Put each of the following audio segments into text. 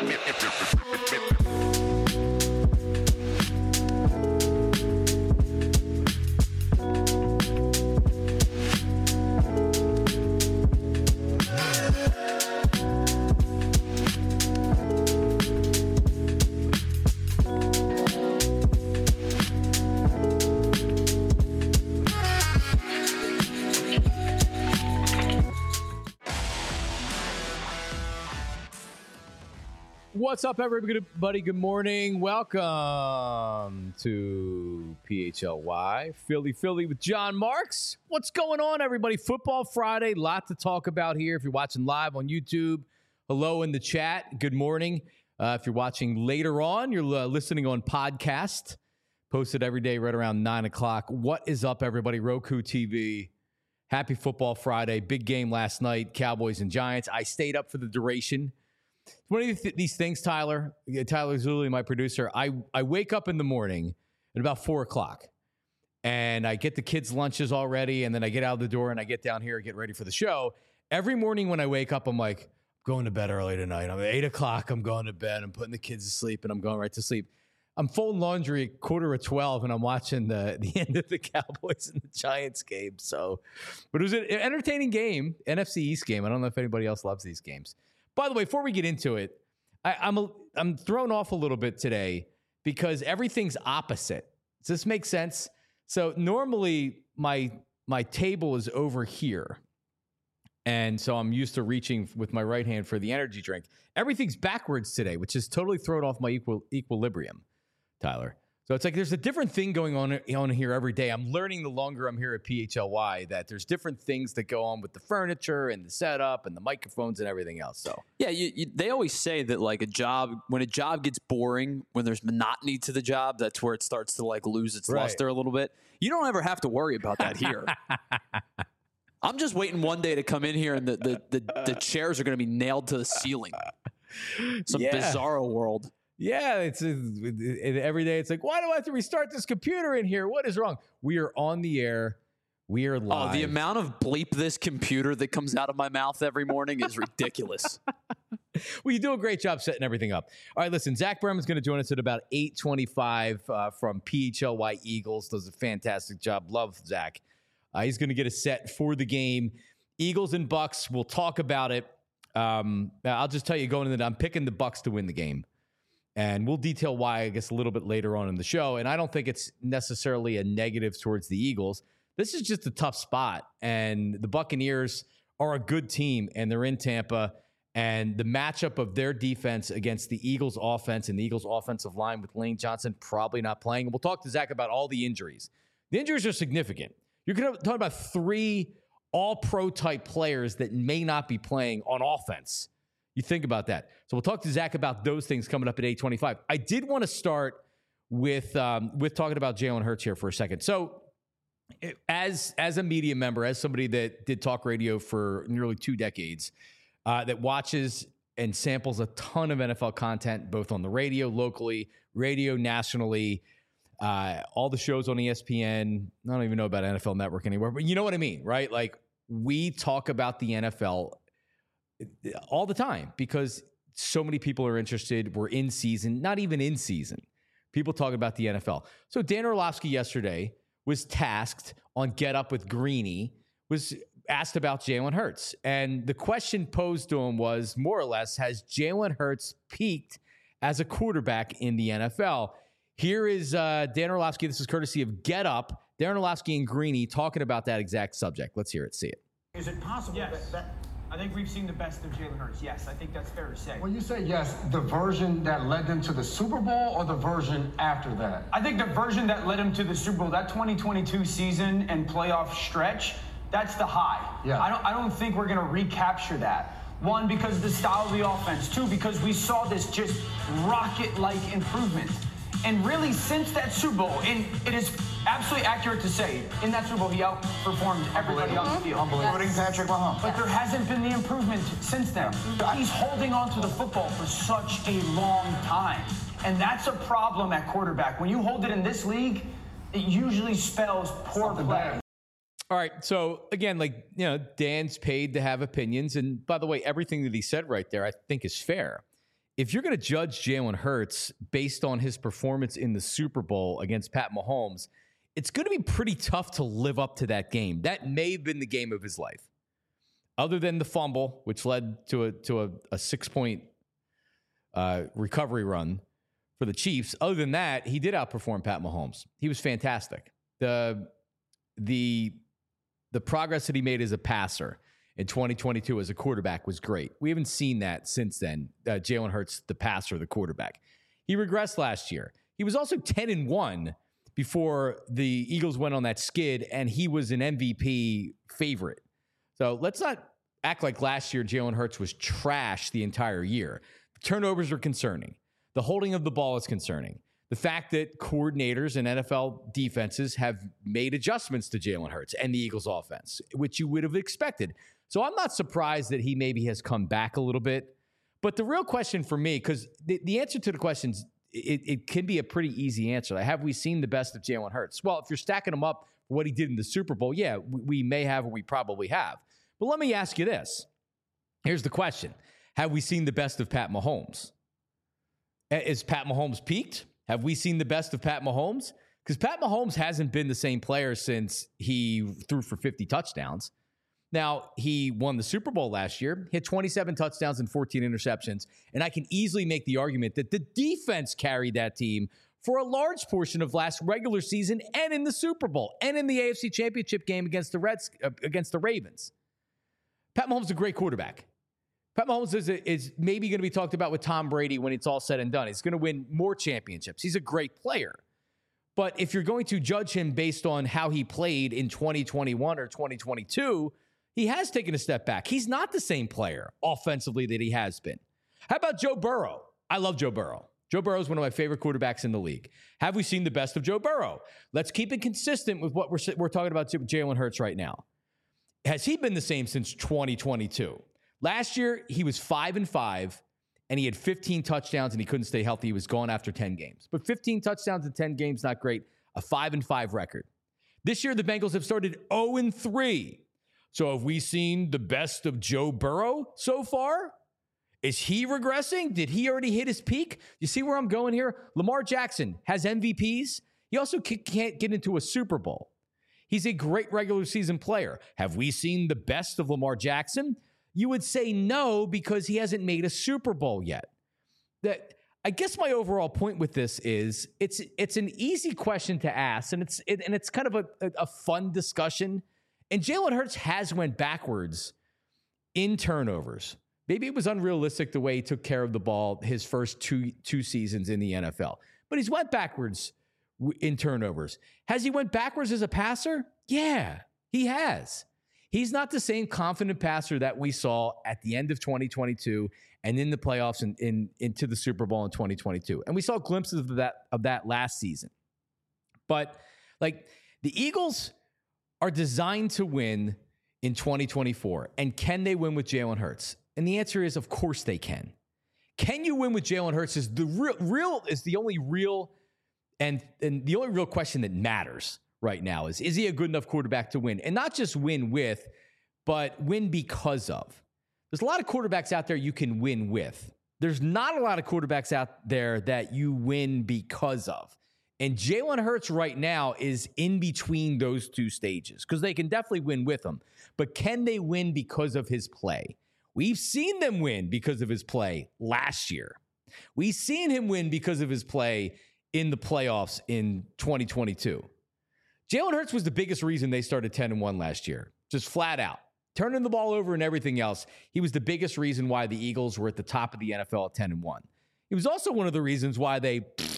What's up, everybody? Good morning. Welcome to PHLY Philly with John Marks. What's going on, everybody? Football Friday. Lot to talk about here. If you're watching live on YouTube, hello in the chat. Good morning. If you're watching later on, you're listening on podcast. Posted every day right around 9 o'clock. What is up, everybody? Roku TV. Happy Football Friday. Big game last night, Cowboys and Giants. I stayed up for the duration. One of these things, Tyler Zulli, my producer, I wake up in the morning at about 4 o'clock and I get the kids' lunches already. And then I get out the door and I get down here and get ready for the show. Every morning when I wake up, I'm like, going to bed early tonight. I'm at 8 o'clock. I'm going to bed. I'm putting the kids to sleep and I'm going right to sleep. I'm folding laundry at 11:45 and I'm watching the end of the Cowboys and the Giants game. But it was an entertaining game, NFC East game. I don't know if anybody else loves these games. By the way, before we get into it, I'm thrown off a little bit today because everything's opposite. Does this make sense? So normally my table is over here. And so I'm used to reaching with my right hand for the energy drink. Everything's backwards today, which is totally thrown off my equilibrium, Tyler. So it's like there's a different thing going on here every day. I'm learning the longer I'm here at PHLY that there's different things that go on with the furniture and the setup and the microphones and everything else. So yeah, they always say that like when a job gets boring, when there's monotony to the job, that's where it starts to like lose its luster a little bit. You don't ever have to worry about that here. I'm just waiting one day to come in here and the chairs are going to be nailed to the ceiling. Some bizarro world. Yeah, every day it's like, why do I have to restart this computer in here? What is wrong? We are on the air. We are live. Oh, the amount of bleep this computer that comes out of my mouth every morning is ridiculous. Well, you do a great job setting everything up. All right, listen, Zach Berman's going to join us at about 8:25 from PHLY Eagles. Does a fantastic job. Love Zach. He's going to get a set for the game. Eagles and Bucks, we'll talk about it. I'll just tell you going into that, I'm picking the Bucks to win the game. And we'll detail why, I guess, a little bit later on in the show. And I don't think it's necessarily a negative towards the Eagles. This is just a tough spot. And the Buccaneers are a good team, and they're in Tampa. And the matchup of their defense against the Eagles' offense and the Eagles' offensive line with Lane Johnson probably not playing. And we'll talk to Zach about all the injuries. The injuries are significant. You're going to talk about 3 all-pro type players that may not be playing on offense. You think about that. So we'll talk to Zach about those things coming up at 8:25. I did want to start with talking about Jalen Hurts here for a second. So as a media member, as somebody that did talk radio for nearly 2 decades, that watches and samples a ton of NFL content, both on the radio locally, radio nationally, all the shows on ESPN. I don't even know about NFL Network anymore, but you know what I mean, right? Like we talk about the NFL all the time because so many people are interested. We're in season, not even in season. People talk about the NFL. So Dan Orlovsky yesterday was tasked on Get Up with Greeny, was asked about Jalen Hurts. And the question posed to him was more or less, has Jalen Hurts peaked as a quarterback in the NFL? Here is Dan Orlovsky. This is courtesy of Get Up. Dan Orlovsky and Greeny talking about that exact subject. Let's hear it, see it. Is it possible that I think we've seen the best of Jalen Hurts. Yes, I think that's fair to say. When you say yes, the version that led them to the Super Bowl or the version after that? I think the version that led him to the Super Bowl, that 2022 season and playoff stretch, that's the high. Yeah. I don't think we're going to recapture that. 1, because of the style of the offense. 2, because we saw this just rocket-like improvement. And really, since that Super Bowl, and it is absolutely accurate to say, in that Super Bowl, he outperformed everybody on the field. Including Patrick Mahomes. But there hasn't been the improvement since then. He's holding on to the football for such a long time. And that's a problem at quarterback. When you hold it in this league, it usually spells poor play. All right. So again, like, you know, Dan's paid to have opinions. And by the way, everything that he said right there, I think is fair. if you're going to judge Jalen Hurts based on his performance in the Super Bowl against Pat Mahomes, it's going to be pretty tough to live up to that game. That may have been the game of his life. Other than the fumble, which led to a 6-point recovery run for the Chiefs. Other than that, he did outperform Pat Mahomes. He was fantastic. The progress that he made as a passer in 2022 as a quarterback was great. We haven't seen that since then. Jalen Hurts, the passer, the quarterback. He regressed last year. He was also 10-1 before the Eagles went on that skid, and he was an MVP favorite. So let's not act like last year Jalen Hurts was trash the entire year. The turnovers are concerning. The holding of the ball is concerning. The fact that coordinators and NFL defenses have made adjustments to Jalen Hurts and the Eagles offense, which you would have expected. So I'm not surprised that he maybe has come back a little bit. But the real question for me, because the answer to the questions, it can be a pretty easy answer. Like, have we seen the best of Jalen Hurts? Well, if you're stacking him up for what he did in the Super Bowl, yeah, we may have, or we probably have. But let me ask you this. Here's the question. Have we seen the best of Pat Mahomes? Is Pat Mahomes peaked? Have we seen the best of Pat Mahomes? Because Pat Mahomes hasn't been the same player since he threw for 50 touchdowns. Now, he won the Super Bowl last year, hit 27 touchdowns and 14 interceptions, and I can easily make the argument that the defense carried that team for a large portion of last regular season and in the Super Bowl and in the AFC Championship game against the Ravens. Pat Mahomes is a great quarterback. Pat Mahomes is maybe going to be talked about with Tom Brady when it's all said and done. He's going to win more championships. He's a great player. But if you're going to judge him based on how he played in 2021 or 2022, he has taken a step back. He's not the same player offensively that he has been. How about Joe Burrow? I love Joe Burrow. Joe Burrow is one of my favorite quarterbacks in the league. Have we seen the best of Joe Burrow? Let's keep it consistent with what we're talking about Jalen Hurts right now. Has he been the same since 2022? Last year, he was 5-5, and he had 15 touchdowns, and he couldn't stay healthy. He was gone after 10 games. But 15 touchdowns in 10 games, not great. A 5-5 record. This year, the Bengals have started 0-3. So have we seen the best of Joe Burrow so far? Is he regressing? Did he already hit his peak? You see where I'm going here? Lamar Jackson has MVPs. He also can't get into a Super Bowl. He's a great regular season player. Have we seen the best of Lamar Jackson? You would say no, because he hasn't made a Super Bowl yet. I guess my overall point with this is it's an easy question to ask, and it's kind of a fun discussion. And Jalen Hurts has went backwards in turnovers. Maybe it was unrealistic the way he took care of the ball his first two seasons in the NFL. But he's went backwards in turnovers. Has he went backwards as a passer? Yeah, he has. He's not the same confident passer that we saw at the end of 2022 and in the playoffs and into the Super Bowl in 2022. And we saw glimpses of that last season. But like, the Eagles are designed to win in 2024. And can they win with Jalen Hurts? And the answer is, of course they can. Can you win with Jalen Hurts is the only real question that matters right now. Is he a good enough quarterback to win? And not just win with, but win because of. There's a lot of quarterbacks out there you can win with. There's not a lot of quarterbacks out there that you win because of. And Jalen Hurts right now is in between those two stages, because they can definitely win with him. But can they win because of his play? We've seen them win because of his play last year. We've seen him win because of his play in the playoffs in 2022. Jalen Hurts was the biggest reason they started 10-1 last year, just flat out. Turning the ball over and everything else, he was the biggest reason why the Eagles were at the top of the NFL at 10-1. He was also one of the reasons why they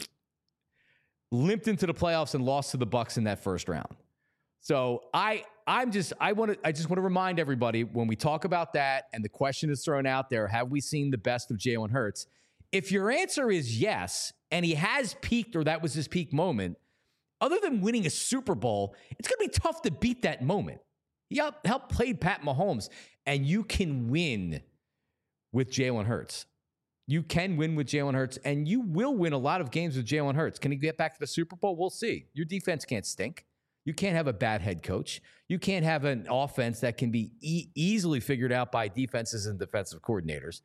limped into the playoffs and lost to the Bucs in that first round. So I just want to remind everybody, when we talk about that and the question is thrown out there, have we seen the best of Jalen Hurts? If your answer is yes, and he has peaked, or that was his peak moment, other than winning a Super Bowl, it's going to be tough to beat that moment. He helped play Pat Mahomes, and you can win with Jalen Hurts. You can win with Jalen Hurts, and you will win a lot of games with Jalen Hurts. Can he get back to the Super Bowl? We'll see. Your defense can't stink. You can't have a bad head coach. You can't have an offense that can be easily figured out by defenses and defensive coordinators.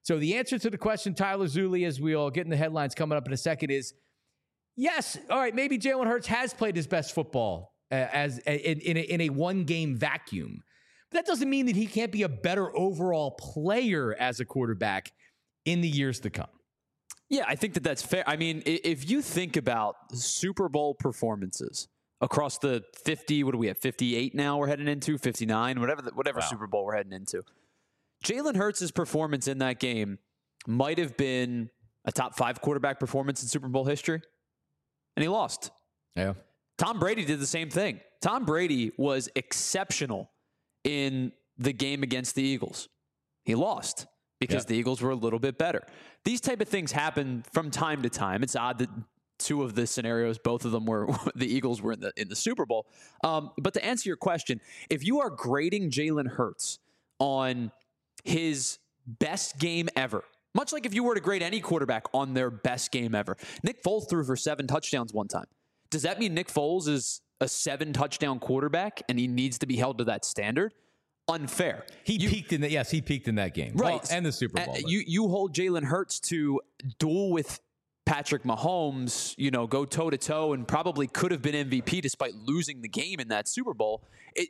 So the answer to the question, Tyler Zulli, as we all get in the headlines coming up in a second, is yes. All right, maybe Jalen Hurts has played his best football in a one-game vacuum. But that doesn't mean that he can't be a better overall player as a quarterback in the years to come. Yeah, I think that's fair. I mean, if you think about Super Bowl performances across the 50, what do we have, 58 now we're heading into, 59, whatever Super Bowl we're heading into. Jalen Hurts' performance in that game might have been a top 5 quarterback performance in Super Bowl history, and he lost. Yeah. Tom Brady did the same thing. Tom Brady was exceptional in the game against the Eagles. He lost because the Eagles were a little bit better. These type of things happen from time to time. It's odd that 2 of the scenarios, both of them were the Eagles were in the Super Bowl. But to answer your question, if you are grading Jalen Hurts on his best game ever, much like if you were to grade any quarterback on their best game ever, Nick Foles threw for 7 touchdowns one time. Does that mean Nick Foles is a 7-touchdown quarterback and he needs to be held to that standard? Unfair. He peaked in that game. Right. Well, and the Super Bowl. You hold Jalen Hurts to duel with Patrick Mahomes, go toe-to-toe, and probably could have been MVP despite losing the game in that Super Bowl.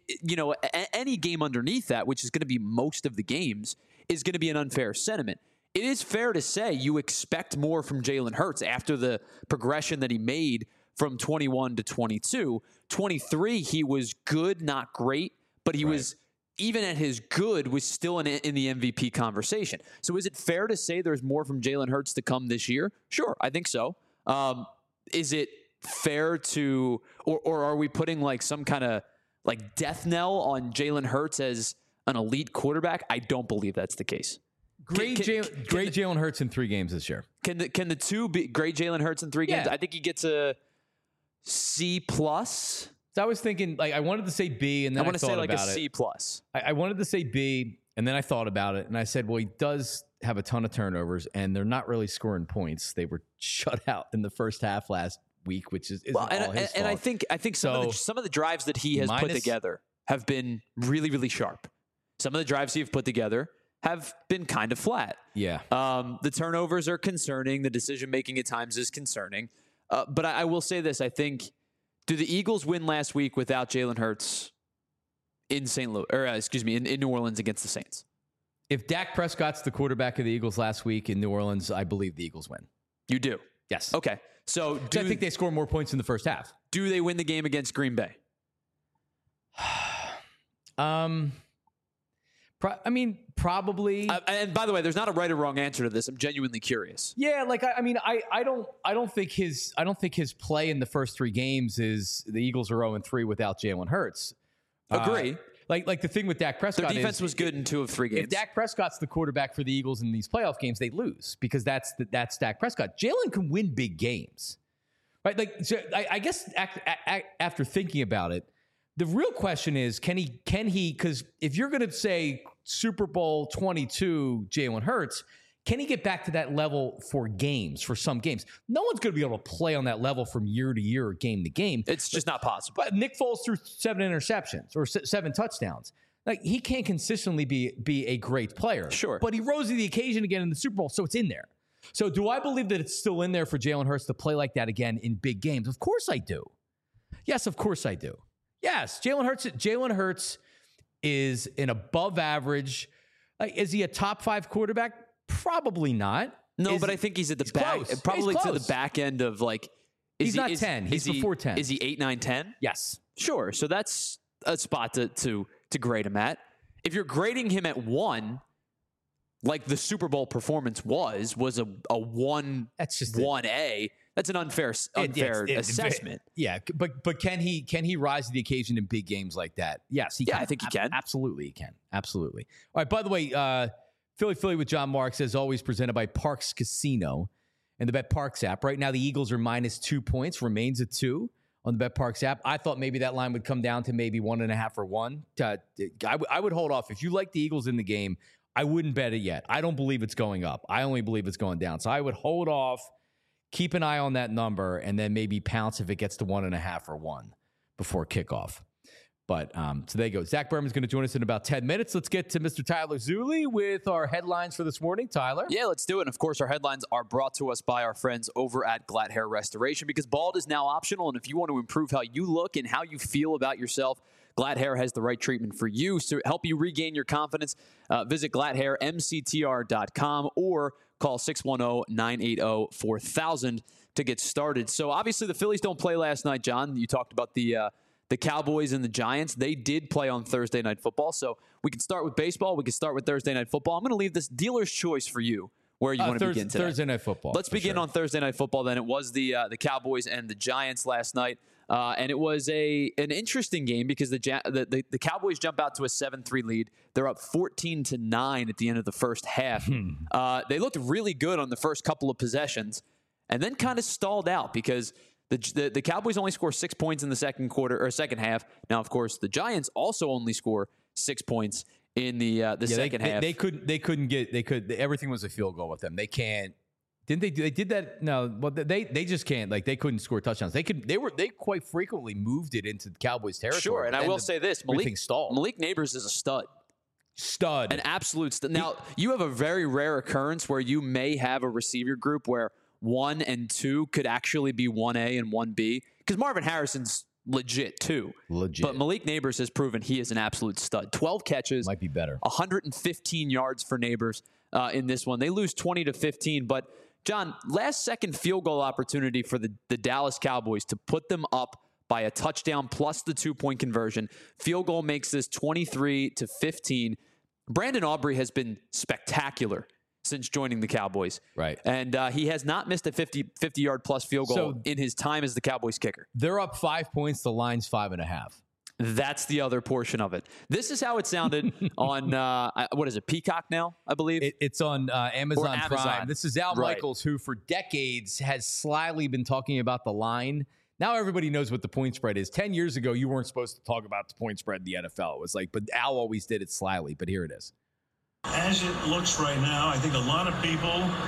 Any game underneath that, which is going to be most of the games, is going to be an unfair sentiment. It is fair to say you expect more from Jalen Hurts after the progression that he made from 21 to 22. 23, he was good, not great, but he was, even at his good, was still in the MVP conversation. So is it fair to say there's more from Jalen Hurts to come this year? Sure, I think so. Is it fair to, or are we putting like some kind of like death knell on Jalen Hurts as an elite quarterback? I don't believe that's the case. Great Jalen Hurts in 3 games this year. Can the 2 be great Jalen Hurts in 3 games? I think he gets a C+. So I was thinking, I wanted to say B, and then I want to say like a C+. I wanted to say B, and then I thought about it, and I said, well, he does have a ton of turnovers, and they're not really scoring points. They were shut out in the first half last week, which is all his fault. And I think some of the drives that he has put together have been really, really sharp. Some of the drives he's put together have been kind of flat. Yeah. The turnovers are concerning. The decision making at times is concerning. But I will say this: I think. Do the Eagles win last week without Jalen Hurts in in New Orleans against the Saints? If Dak Prescott's the quarterback of the Eagles last week in New Orleans, I believe the Eagles win. You do? Yes. Okay. So I think they score more points in the first half. Do they win the game against Green Bay? Probably. And by the way, there's not a right or wrong answer to this. I'm genuinely curious. Yeah, I don't think his play in the first 3 games is the Eagles are 0-3 without Jalen Hurts. Agree. Like the thing with Dak Prescott, their defense was good in 2 of 3 games. If Dak Prescott's the quarterback for the Eagles in these playoff games, they lose because that's Dak Prescott. Jalen can win big games, right? So I guess after thinking about it, the real question is, can he? Because if you're going to say Super Bowl 22 Jalen Hurts, can he get back to that level for some games? No one's going to be able to play on that level from year to year or game to game. It's just not possible. But Nick Foles threw 7 interceptions or 7 touchdowns. He can't consistently be a great player. Sure. But he rose to the occasion again in the Super Bowl, so it's in there. So do I believe that it's still in there for Jalen Hurts to play like that again in big games? Of course I do. Yes, of course I do. Yes, Jalen Hurts is an above average. Is he a top 5 quarterback? Probably not. No, but I think he's at the back, close. probably to the back end of like. He's not 10. He's before 10. Is he 8, 9, 10? Yes. Sure. So that's a spot to grade him at. If you're grading him at 1, like the Super Bowl performance was a 1. That's just 1A. That's an unfair assessment. Yeah, but can he rise to the occasion in big games like that? Yes, he can. I think he can. Absolutely, he can. Absolutely. All right. By the way, Philly with John Marks, as always, presented by Parx Casino and the BetParx app. Right now, the Eagles are -2 points, remains at 2 on the BetParx app. I thought maybe that line would come down to maybe 1.5 or 1. I would hold off. If you like the Eagles in the game, I wouldn't bet it yet. I don't believe it's going up. I only believe it's going down. So I would hold off. Keep an eye on that number, and then maybe pounce if it gets to 1.5 or 1 before kickoff. But so there you go. Zach Berman's going to join us in about 10 minutes. Let's get to Mr. Tyler Zulli with our headlines for this morning. Tyler? Yeah, let's do it. And of course, our headlines are brought to us by our friends over at Glatt Hair Restoration, because bald is now optional. And if you want to improve how you look and how you feel about yourself, Glatt Hair has the right treatment for you. So to help you regain your confidence, visit GlattHairMCTR.com or call 610-980-4000 to get started. So obviously the Phillies don't play last night, John. You talked about the Cowboys and the Giants. They did play on Thursday Night Football. So we can start with baseball. We can start with Thursday Night Football. I'm going to leave this dealer's choice for you where you want to begin today. Thursday Night Football. Let's begin on Thursday Night Football then. It was the Cowboys and the Giants last night. And it was an interesting game because the Cowboys jump out to a 7-3 lead. They're up 14-9 at the end of the first half. They looked really good on the first couple of possessions and then kind of stalled out because the Cowboys only score 6 points in the second half. Now, of course, the Giants also only score 6 points in the second half. They couldn't get everything was a field goal with them. They can't. Didn't they? They did that. No, well, they just can't. Like, they couldn't score touchdowns. They quite frequently moved it into the Cowboys' territory. Sure, and I will say this: Malik Neighbors is a stud, an absolute stud. Now, you have a very rare occurrence where you may have a receiver group where 1 and 2 could actually be 1A and 1B, because Marvin Harrison's legit too. But Malik Neighbors has proven he is an absolute stud. 12 catches, might be better. 115 yards for Neighbors in this one. They lose 20-15, but John, last second field goal opportunity for the Dallas Cowboys to put them up by a touchdown plus the 2-point conversion. Field goal makes this 23-15. Brandon Aubrey has been spectacular since joining the Cowboys. Right. And he has not missed a 50-yard plus field goal in his time as the Cowboys kicker. They're up 5 points. The line's 5.5. That's the other portion of it. This is how it sounded on, what is it, Peacock now, I believe? It's on Amazon Prime. This is Al Michaels, who for decades has slyly been talking about the line. Now everybody knows what the point spread is. 10 years ago, you weren't supposed to talk about the point spread in the NFL. It was like, but Al always did it slyly, but here it is. As it looks right now, I think a lot of people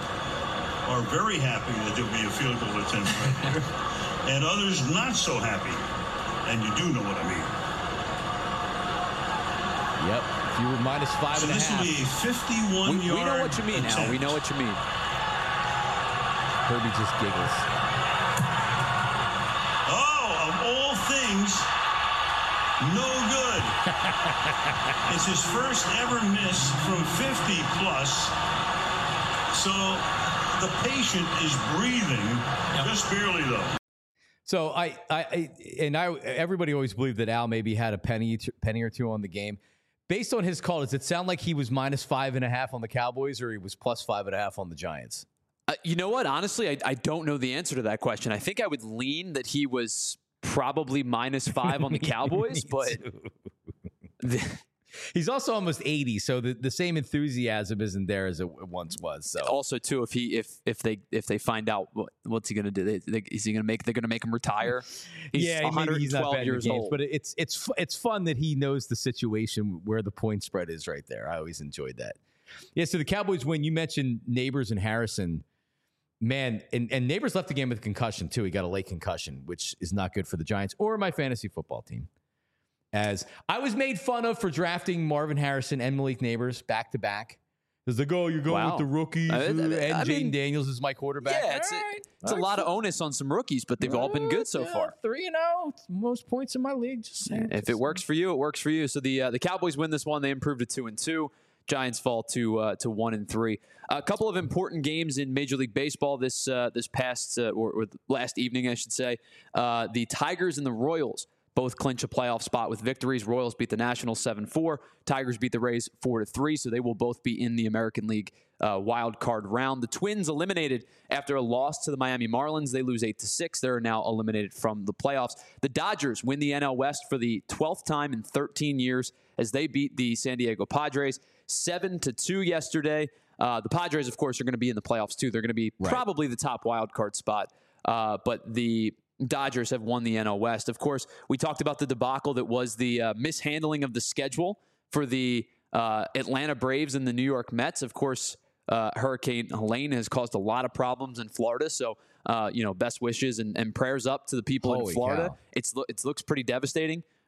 are very happy that there'll be a field goal attempt right there, and others not so happy. And you do know what I mean. Yep. If you were minus 5.5. So this will be a 51-yard We know what you mean, attempt. Al. We know what you mean. Herbie just giggles. Oh, of all things, no good. It's his first ever miss from 50 plus. So the patient is breathing, just barely though. So everybody always believed that Al maybe had a penny or two on the game. Based on his call, does it sound like he was minus 5.5 on the Cowboys, or he was plus 5.5 on the Giants? You know what? Honestly, I don't know the answer to that question. I think I would lean that he was probably minus 5 on the Cowboys, but he's also almost 80, so the same enthusiasm isn't there as it once was. So also too, if they find out what's he going to do? They're going to make him retire. He's 112 years old. But it's fun that he knows the situation where the point spread is right there. I always enjoyed that. Yeah. So the Cowboys win. You mentioned Neighbors and Harrison. Man, and Neighbors left the game with a concussion too. He got a late concussion, which is not good for the Giants or my fantasy football team. As I was made fun of for drafting Marvin Harrison and Malik Neighbors back to back. There's like, oh, you're going with the rookies, and Jaden Daniels is my quarterback. Yeah, it's a lot of onus on some rookies, but they've all been good so far. 3-0, most points in my league. Just saying. If it works for you, it works for you. So the Cowboys win this one. They improved to 2-2. Giants fall to 1-3. A couple of important games in Major League Baseball this past or last evening, I should say. The Tigers and the Royals both clinch a playoff spot with victories. Royals beat the Nationals 7-4. Tigers beat the Rays 4-3. So they will both be in the American League wild card round. The Twins eliminated after a loss to the Miami Marlins. They lose 8-6. They're now eliminated from the playoffs. The Dodgers win the NL West for the 12th time in 13 years as they beat the San Diego Padres 7-2 yesterday. The Padres, of course, are going to be in the playoffs too. They're going to be probably the top wild card spot. But the Dodgers have won the NL West. Of course, we talked about the debacle that was the mishandling of the schedule for the Atlanta Braves and the New York Mets. Of course, Hurricane Helene has caused a lot of problems in Florida. So, best wishes and prayers up to the people in Florida. It looks pretty devastating.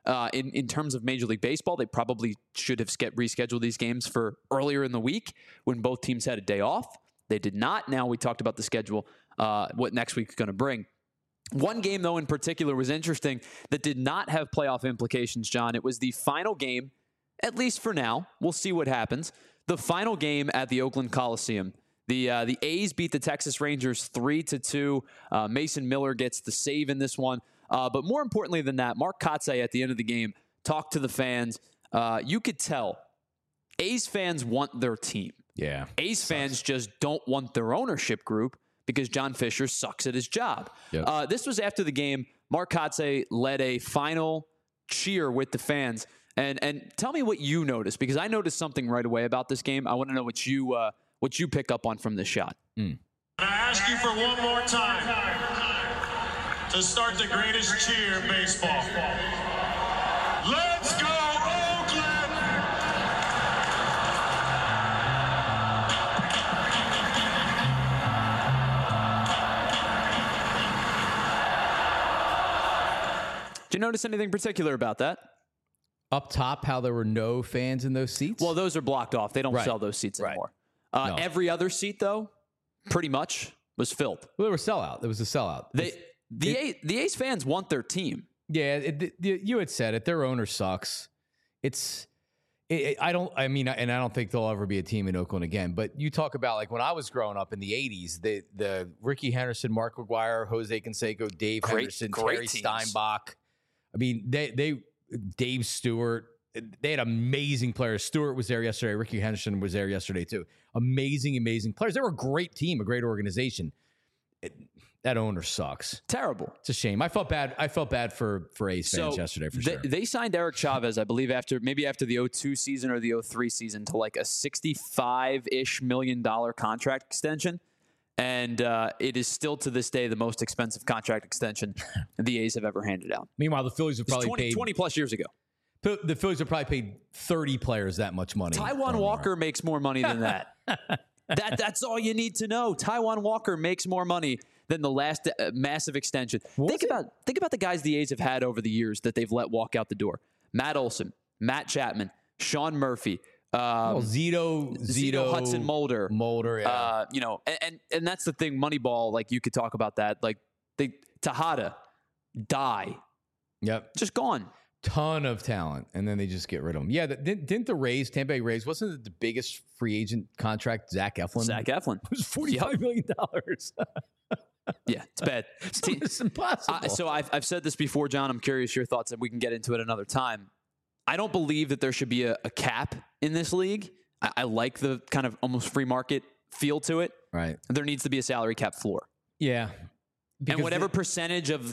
In terms of Major League Baseball, they probably should have rescheduled these games for earlier in the week when both teams had a day off. They did not. Now we talked about the schedule, what next week is going to bring. One game, though, in particular was interesting that did not have playoff implications, John. It was the final game, at least for now. We'll see what happens. The final game at the Oakland Coliseum. The A's beat the Texas Rangers 3-2. Mason Miller gets the save in this one. But more importantly than that, Mark Kotsay at the end of the game talked to the fans. You could tell A's fans want their team. Yeah. A's fans just don't want their ownership group because John Fisher sucks at his job. Yep. This was after the game. Mark Kotsay led a final cheer with the fans. And tell me what you noticed, because I noticed something right away about this game. I want to know what you pick up on from this shot. I ask you for one more time to start the greatest cheer in baseball. Let's go, Oakland! Did you notice anything particular about that? Up top, how there were no fans in those seats? Well, those are blocked off. They don't Right. sell those seats Right. anymore. No. Every other seat, though, pretty much was filled. Well, they were sellout. It was a sellout. The A's fans want their team. Yeah, you had said it. Their owner sucks. I don't think there'll ever be a team in Oakland again. But you talk about like when I was growing up in the 80s, the Ricky Henderson, Mark McGuire, Jose Canseco, Dave Henderson, Terry teams. Steinbach. I mean, Dave Stewart. They had amazing players. Stewart was there yesterday. Ricky Henderson was there yesterday too. Amazing players. They were a great team, a great organization. That owner sucks. Terrible. It's a shame. I felt bad for A's fans yesterday for sure. They signed Eric Chavez, I believe, after the 02 season or the 03 season to like a $65-ish million contract extension. And it is still to this day the most expensive contract extension the A's have ever handed out. Meanwhile, the Phillies have probably paid 20 plus years ago. The Phillies have probably paid 30 players that much money. Taijuan Walker makes more money than that. That's all you need to know. Taijuan Walker makes more money than the last massive extension. Think about the guys the A's have had over the years that they've let walk out the door. Matt Olson, Matt Chapman, Sean Murphy, Zito, Hudson Mulder, yeah. And that's the thing. Moneyball, like you could talk about that. Like Tejada, die, yep, just gone. Ton of talent, and then they just get rid of them. Yeah, didn't the Tampa Bay Rays, wasn't it the biggest free agent contract? Zach Eflin. It was $45 million. Yeah, it's bad. It's impossible. So I've said this before, John. I'm curious your thoughts, and we can get into it another time. I don't believe that there should be a cap in this league. I like the kind of almost free market feel to it. Right. There needs to be a salary cap floor. Yeah. And whatever percentage of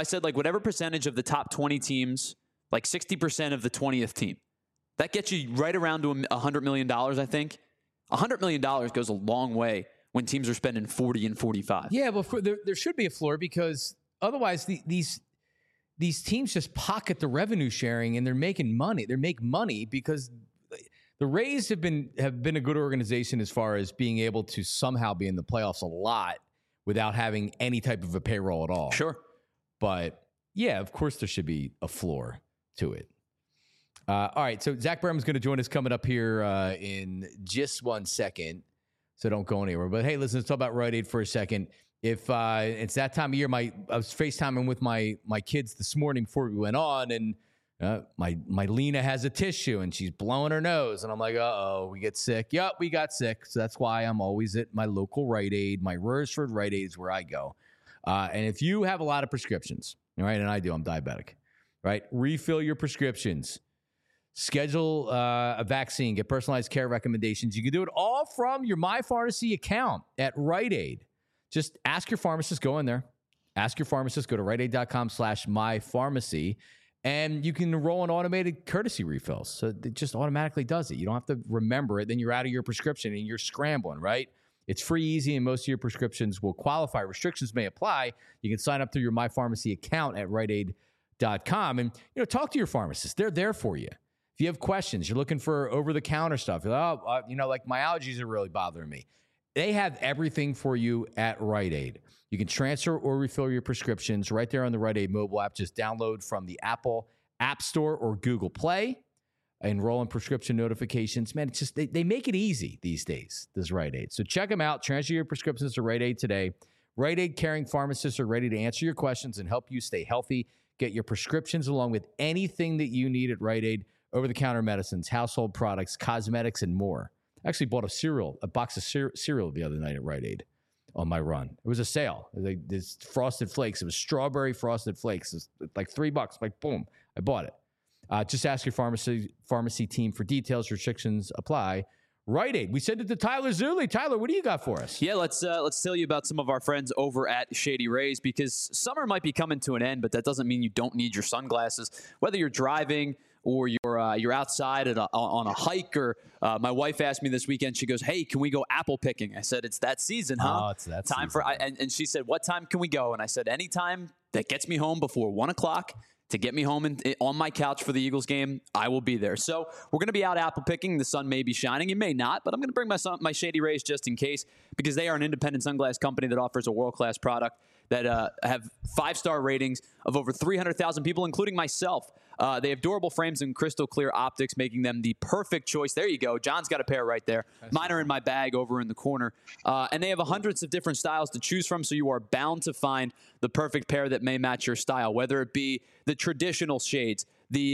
the top 20 teams, like 60% of the 20th team, that gets you right around to $100 million, I think. $100 million goes a long way when teams are spending 40 and 45. Yeah, but there should be a floor, because otherwise these teams just pocket the revenue sharing and they're making money. They make money because the Rays have been a good organization as far as being able to somehow be in the playoffs a lot without having any type of a payroll at all. Sure. But yeah, of course there should be a floor to it. All right, so Zach Berman's going to join us coming up here in just 1 second. So don't go anywhere. But hey, listen, let's talk about Rite Aid for a second. If it's that time of year, I was FaceTiming with my kids this morning before we went on, and my Lena has a tissue and she's blowing her nose, and I'm like, uh-oh, we get sick. Yep, we got sick. So that's why I'm always at my local Rite Aid. My Royersford Rite Aid is where I go. And if you have a lot of prescriptions, all right, and I do, I'm diabetic, right? Refill your prescriptions. Schedule a vaccine, get personalized care recommendations. You can do it all from your MyPharmacy account at Rite Aid. Just ask your pharmacist, go in there. Ask your pharmacist, go to riteaid.com/mypharmacy, and you can enroll in automated courtesy refills. So it just automatically does it. You don't have to remember it. Then you're out of your prescription and you're scrambling, right? It's free, easy, and most of your prescriptions will qualify. Restrictions may apply. You can sign up through your MyPharmacy account at riteaid.com and talk to your pharmacist. They're there for you. If you have questions, you're looking for over-the-counter stuff, you're like, like my allergies are really bothering me. They have everything for you at Rite Aid. You can transfer or refill your prescriptions right there on the Rite Aid mobile app. Just download from the Apple App Store or Google Play. Enroll in prescription notifications. Man, it's just they make it easy these days, this Rite Aid. So check them out. Transfer your prescriptions to Rite Aid today. Rite Aid caring pharmacists are ready to answer your questions and help you stay healthy. Get your prescriptions along with anything that you need at Rite Aid, over-the-counter medicines, household products, cosmetics, and more. I actually bought a box of cereal the other night at Rite Aid on my run. It was a sale. This Frosted Flakes. It was strawberry Frosted Flakes. It was like $3. Like, boom, I bought it. Just ask your pharmacy team for details. Restrictions apply. Rite Aid. We sent it to Tyler Zulli. Tyler, what do you got for us? Yeah, let's tell you about some of our friends over at Shady Rays, because summer might be coming to an end, but that doesn't mean you don't need your sunglasses. Whether you're driving or you're outside on a hike, or my wife asked me this weekend, she goes, "Hey, can we go apple picking?" I said, "It's that season, huh?" Oh, it's that time season. and she said, "What time can we go?" And I said, "Anytime that gets me home before 1 o'clock. To get me home on my couch for the Eagles game, I will be there." So we're going to be out apple picking. The sun may be shining. It may not, but I'm going to bring my Shady Rays just in case, because they are an independent sunglass company that offers a world-class product that have 5-star ratings of over 300,000 people, including myself. They have durable frames and crystal clear optics, making them the perfect choice. There you go. John's got a pair right there. Mine are in my bag over in the corner. And they have hundreds of different styles to choose from, so you are bound to find the perfect pair that may match your style, whether it be the traditional shades,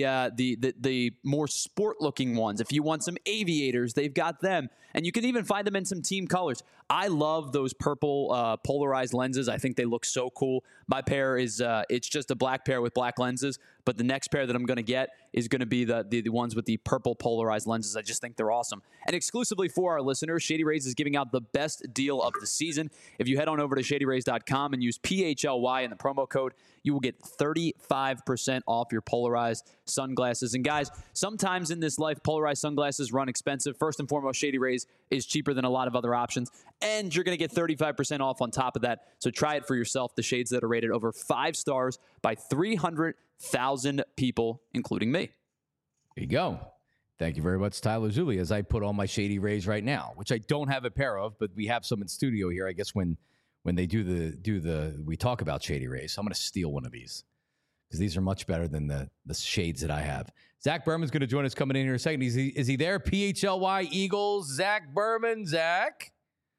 the more sport-looking ones. If you want some aviators, they've got them. And you can even find them in some team colors. I love those purple polarized lenses. I think they look so cool. My pair is it's just a black pair with black lenses, but the next pair that I'm going to get is going to be the ones with the purple polarized lenses. I just think they're awesome. And exclusively for our listeners, Shady Rays is giving out the best deal of the season. If you head on over to shadyrays.com and use PHLY in the promo code, you will get 35% off your polarized sunglasses. And guys, sometimes in this life, polarized sunglasses run expensive. First and foremost, Shady Rays is cheaper than a lot of other options, and you're going to get 35% off on top of that. So try it for yourself. The shades that are rated over 5 stars by 300,000 people, including me. There you go. Thank you very much, Tyler Zulli, as I put on my Shady Rays right now, which I don't have a pair of, but we have some in studio here. I guess when they we talk about Shady Rays, so I'm going to steal one of these because these are much better than the shades that I have. Zach Berman's going to join us coming in here in a second. Is he there? PHLY Eagles, Zach Berman. Zach?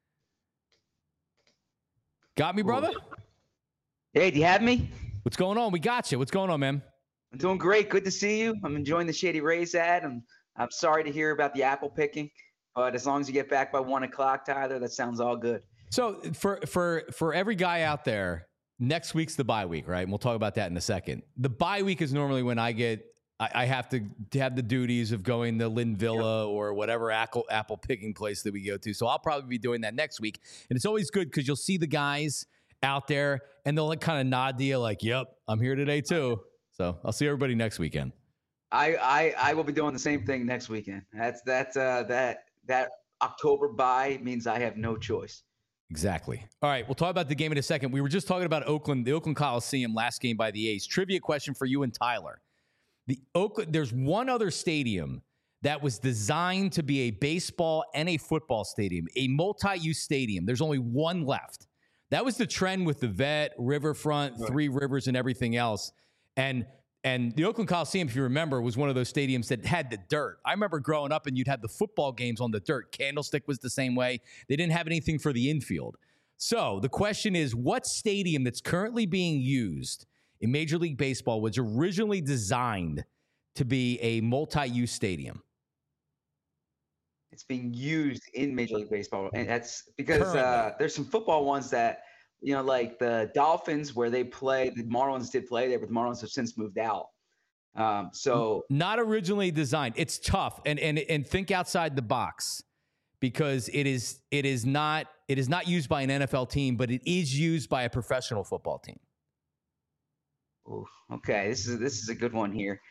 Got me, brother? Hey, do you have me? What's going on? We got you. What's going on, man? I'm doing great. Good to see you. I'm enjoying the Shady Rays ad. I'm sorry to hear about the apple picking, but as long as you get back by 1 o'clock, Tyler, that sounds all good. So for every guy out there, next week's the bye week, right? And we'll talk about that in a second. The bye week is normally when I have to have the duties of going to Lynn Villa or whatever apple picking place that we go to. So I'll probably be doing that next week. And it's always good because you'll see the guys out there and they'll like kind of nod to you like, "Yep, I'm here today too." So I'll see everybody next weekend. I will be doing the same thing next weekend. That October bye means I have no choice. Exactly. All right, we'll talk about the game in a second. We were just talking about Oakland, the Oakland Coliseum, last game by the A's. Trivia question for you and Tyler. There's one other stadium that was designed to be a baseball and a football stadium, a multi-use stadium. There's only one left. That was the trend with the Vet, Riverfront, right. Three Rivers, and everything else. And the Oakland Coliseum, if you remember, was one of those stadiums that had the dirt. I remember growing up and you'd have the football games on the dirt. Candlestick was the same way. They didn't have anything for the infield. So the question is, what stadium that's currently being used in Major League Baseball was originally designed to be a multi-use stadium? It's being used in Major League Baseball. And that's because there's some football ones that, you know, like the Dolphins where they play, the Marlins did play there, but the Marlins have since moved out. So not originally designed. It's tough. And think outside the box because it is not used by an NFL team, but it is used by a professional football team. Ooh, okay. This is a good one here.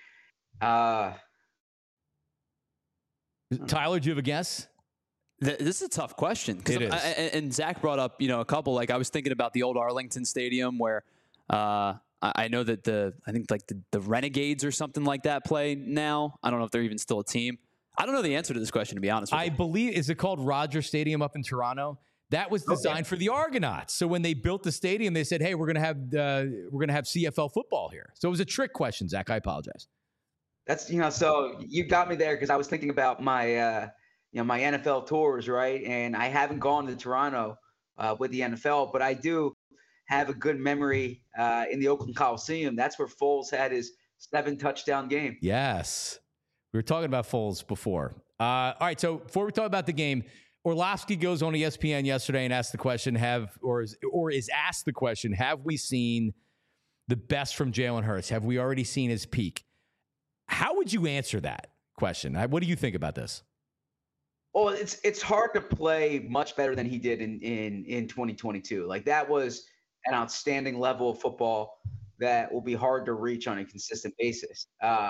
Tyler, do you have a guess? This is a tough question. It is. And Zach brought up, a couple. Like I was thinking about the old Arlington Stadium where I know that the Renegades or something like that play now. I don't know if they're even still a team. I don't know the answer to this question, to be honest with you. I believe, is it called Rogers Stadium up in Toronto? That was designed for the Argonauts. So when they built the stadium, they said, "Hey, we're gonna have CFL football here." So it was a trick question, Zach. I apologize. That's, so you got me there because I was thinking about my, my NFL tours, right? And I haven't gone to Toronto with the NFL, but I do have a good memory in the Oakland Coliseum. That's where Foles had his 7-touchdown game. Yes. We were talking about Foles before. All right, so before we talk about the game, Orlovsky goes on ESPN yesterday and asked the question, is asked the question, have we seen the best from Jalen Hurts? Have we already seen his peak? How would you answer that question? What do you think about this? Well, it's hard to play much better than he did in 2022. Like, that was an outstanding level of football that will be hard to reach on a consistent basis.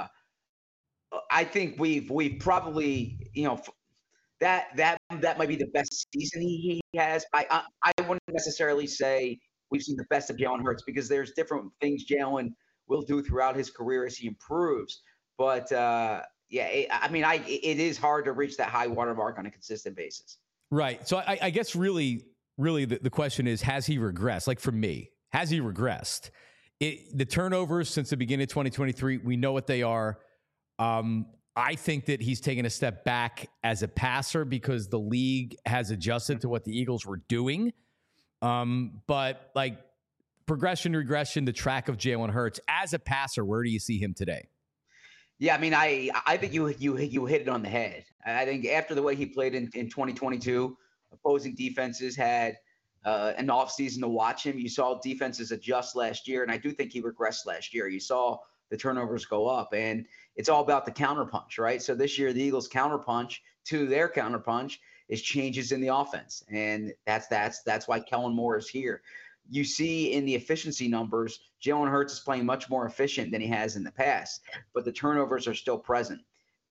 I think we've probably, that might be the best season he has. I wouldn't necessarily say we've seen the best of Jalen Hurts because there's different things Jalen will do throughout his career as he improves. But it is hard to reach that high watermark on a consistent basis. Right. So I guess really the question is, has he regressed? Like, for me, has he regressed? The turnovers since the beginning of 2023, we know what they are. I think that he's taken a step back as a passer because the league has adjusted to what the Eagles were doing. But like progression, regression, the track of Jalen Hurts as a passer, where do you see him today? Yeah, I mean, I think you hit it on the head. I think after the way he played in 2022, opposing defenses had an offseason to watch him. You saw defenses adjust last year, and I do think he regressed last year. You saw the turnovers go up, and it's all about the counterpunch, right? So this year, the Eagles' counterpunch to their counterpunch is changes in the offense, and that's why Kellen Moore is here. You see in the efficiency numbers, Jalen Hurts is playing much more efficient than he has in the past, but the turnovers are still present.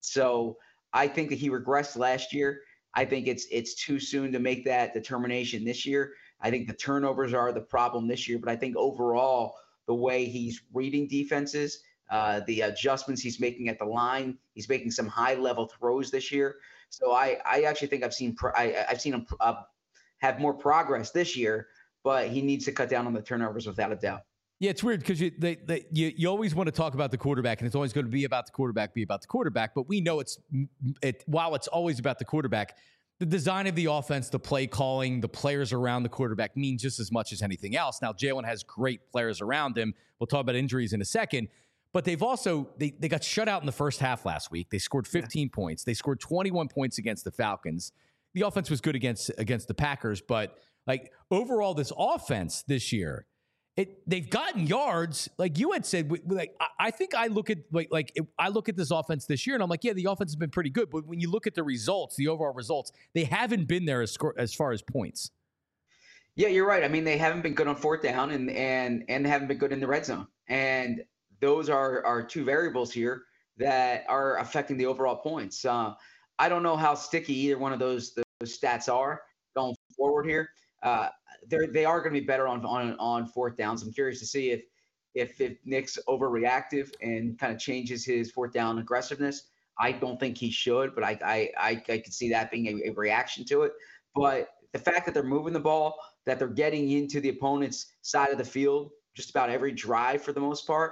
So I think that he regressed last year. I think it's too soon to make that determination this year. I think the turnovers are the problem this year, but I think overall the way he's reading defenses, the adjustments he's making at the line, he's making some high-level throws this year. So I actually think I've seen him have more progress this year, but he needs to cut down on the turnovers without a doubt. Yeah, it's weird because you always want to talk about the quarterback, and it's always going to be about the quarterback. But we know while it's always about the quarterback, the design of the offense, the play calling, the players around the quarterback mean just as much as anything else. Now, Jalen has great players around him. We'll talk about injuries in a second. But they've also they got shut out in the first half last week. They scored 15 points. They scored 21 points against the Falcons. The offense was good against the Packers, but like overall, this offense this year, they've gotten yards. Like you had said, I think I look at I look at this offense this year, and I'm like, yeah, the offense has been pretty good. But when you look at the results, the overall results, they haven't been there as far as points. Yeah, you're right. I mean, they haven't been good on fourth down, and haven't been good in the red zone. And those are two variables here that are affecting the overall points. I don't know how sticky either one of those stats are going forward here. They are going to be better on fourth downs. I'm curious to see if Nick's overreactive and kind of changes his fourth down aggressiveness. I don't think he should, but I could see that being a reaction to it. But the fact that they're moving the ball, that they're getting into the opponent's side of the field just about every drive for the most part,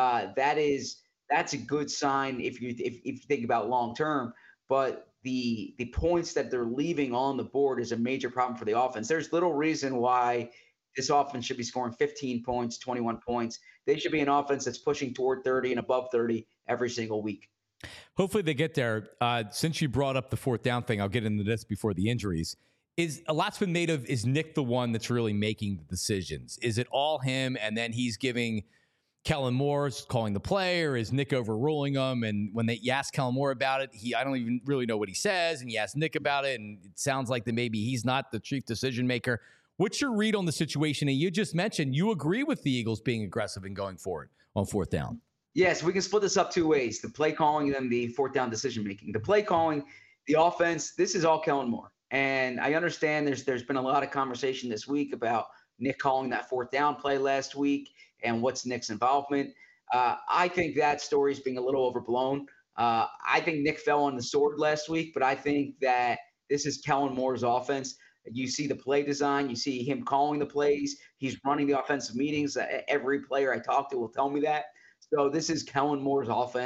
that's a good sign if you think about long term. But the points that they're leaving on the board is a major problem for the offense. There's little reason why this offense should be scoring 15 points, 21 points. They should be an offense that's pushing toward 30 and above 30 every single week. Hopefully they get there. Since you brought up the fourth down thing, I'll get into this before the injuries. A lot's been made of, is Nick the one that's really making the decisions? Is it all him, and then he's giving Kellen Moore calling the play, or is Nick overruling him? And when you ask Kellen Moore about it, I don't even really know what he says. And you ask Nick about it, and it sounds like that maybe he's not the chief decision maker. What's your read on the situation? And you just mentioned you agree with the Eagles being aggressive and going forward on fourth down. Yes, we can split this up two ways: the play calling and then the fourth down decision making. The play calling, the offense, this is all Kellen Moore. And I understand there's been a lot of conversation this week about Nick calling that fourth down play last week and what's Nick's involvement. I think that story is being a little overblown. I think Nick fell on the sword last week, but I think that this is Kellen Moore's offense. You see the play design. You see him calling the plays. He's running the offensive meetings. Every player I talk to will tell me that. So this is Kellen Moore's offense.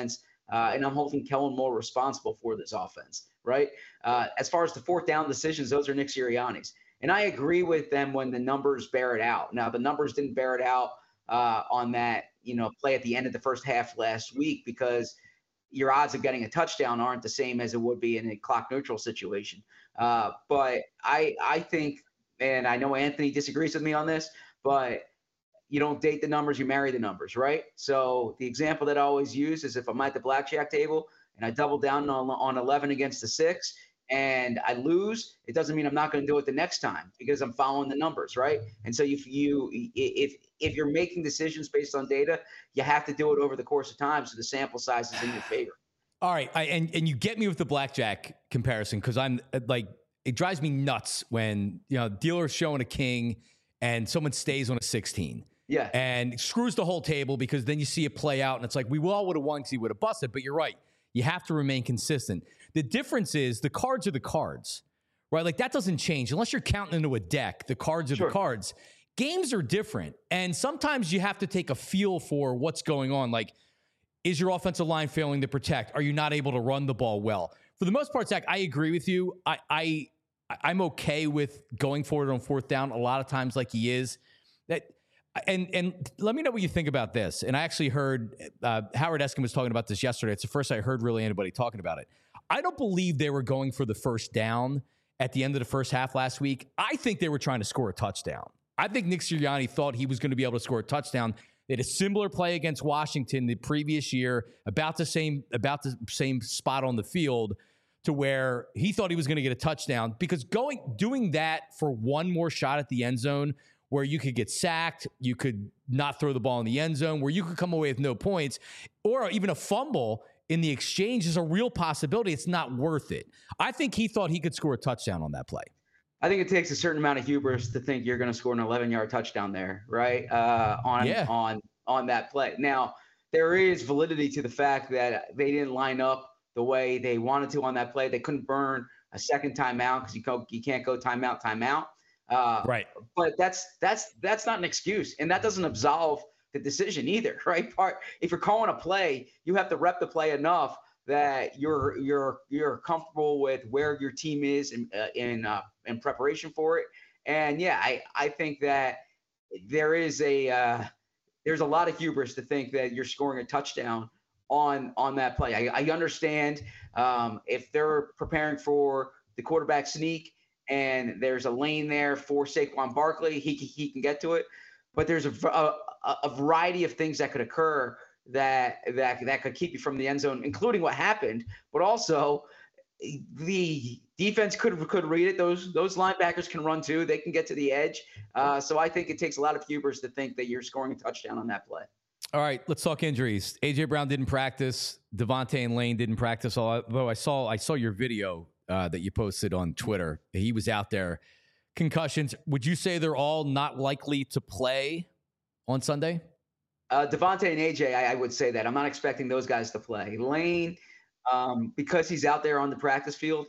and I'm holding Kellen Moore responsible for this offense, right? As far as the fourth down decisions, those are Nick Sirianni's. And I agree with them when the numbers bear it out. Now, the numbers didn't bear it out on that, play at the end of the first half last week, because your odds of getting a touchdown aren't the same as it would be in a clock neutral situation. But I think, and I know Anthony disagrees with me on this, but you don't date the numbers, you marry the numbers, right? So the example that I always use is if I'm at the blackjack table and I double down on 11 against the 6 and I lose, it doesn't mean I'm not going to do it the next time, because I'm following the numbers, right? And so if you're making decisions based on data, you have to do it over the course of time so the sample size is in your favor. All right, and you get me with the blackjack comparison, because I'm like, it drives me nuts when dealer's showing a king and someone stays on a 16. Yeah. And screws the whole table, because then you see it play out and it's like, we all would have won because he would have busted. But you're right. You have to remain consistent. The difference is the cards are the cards, right? Like that doesn't change unless you're counting into a deck. The cards are the cards. Games are different. And sometimes you have to take a feel for what's going on. Like, is your offensive line failing to protect? Are you not able to run the ball well? For the most part, Zach, I agree with you. I'm okay with going for it on fourth down a lot of times, like he is. And let me know what you think about this. And I actually heard Howard Eskin was talking about this yesterday. It's the first I heard really anybody talking about it. I don't believe they were going for the first down at the end of the first half last week. I think they were trying to score a touchdown. I think Nick Sirianni thought he was going to be able to score a touchdown. They had a similar play against Washington the previous year, about the same spot on the field, to where he thought he was going to get a touchdown, because doing that for one more shot at the end zone, where you could get sacked, you could not throw the ball in the end zone, where you could come away with no points, or even a fumble in the exchange is a real possibility. It's not worth it. I think he thought he could score a touchdown on that play. I think it takes a certain amount of hubris to think you're going to score an 11-yard touchdown there, right? On that play. Now, there is validity to the fact that they didn't line up the way they wanted to on that play. They couldn't burn a second timeout because you can't go timeout. Right. But that's not an excuse, and that doesn't absolve the decision either, right? If you're calling a play, you have to rep the play enough that you're comfortable with where your team is in preparation for it. And yeah, I think that there's a lot of hubris to think that you're scoring a touchdown on that play. I understand if they're preparing for the quarterback sneak and there's a lane there for Saquon Barkley, he can get to it. But there's a variety of things that could occur that could keep you from the end zone, including what happened. But also, the defense could read it. Those linebackers can run too. They can get to the edge. So I think it takes a lot of hubris to think that you're scoring a touchdown on that play. All right, let's talk injuries. A.J. Brown didn't practice. Devontae and Lane didn't practice. Although I saw your video that you posted on Twitter. He was out there. Concussions. Would you say they're all not likely to play on Sunday? Devontae and AJ, I would say that. I'm not expecting those guys to play. Lane, because he's out there on the practice field,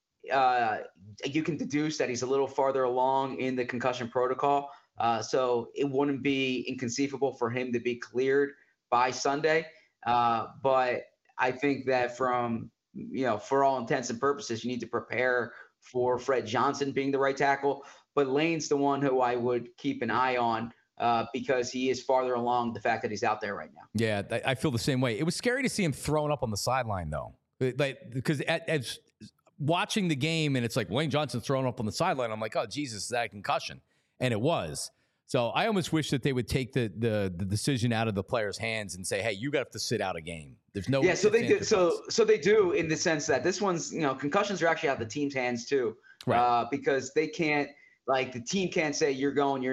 you can deduce that he's a little farther along in the concussion protocol. So it wouldn't be inconceivable for him to be cleared by Sunday. But I think that for all intents and purposes, you need to prepare for Fred Johnson being the right tackle. But Lane's the one who I would keep an eye on because he is farther along the fact that he's out there right now. Yeah, I feel the same way. It was scary to see him thrown up on the sideline, though. Because as watching the game, and it's like Lane Johnson thrown up on the sideline, I'm like, oh, Jesus, is that a concussion? And it was. So I almost wish that they would take the decision out of the player's hands and say, hey, you got to sit out a game. There's no. Yeah, so they do. So they do, in the sense that this one's, concussions are actually out of the team's hands too, right? Because they can't, the team can't say you're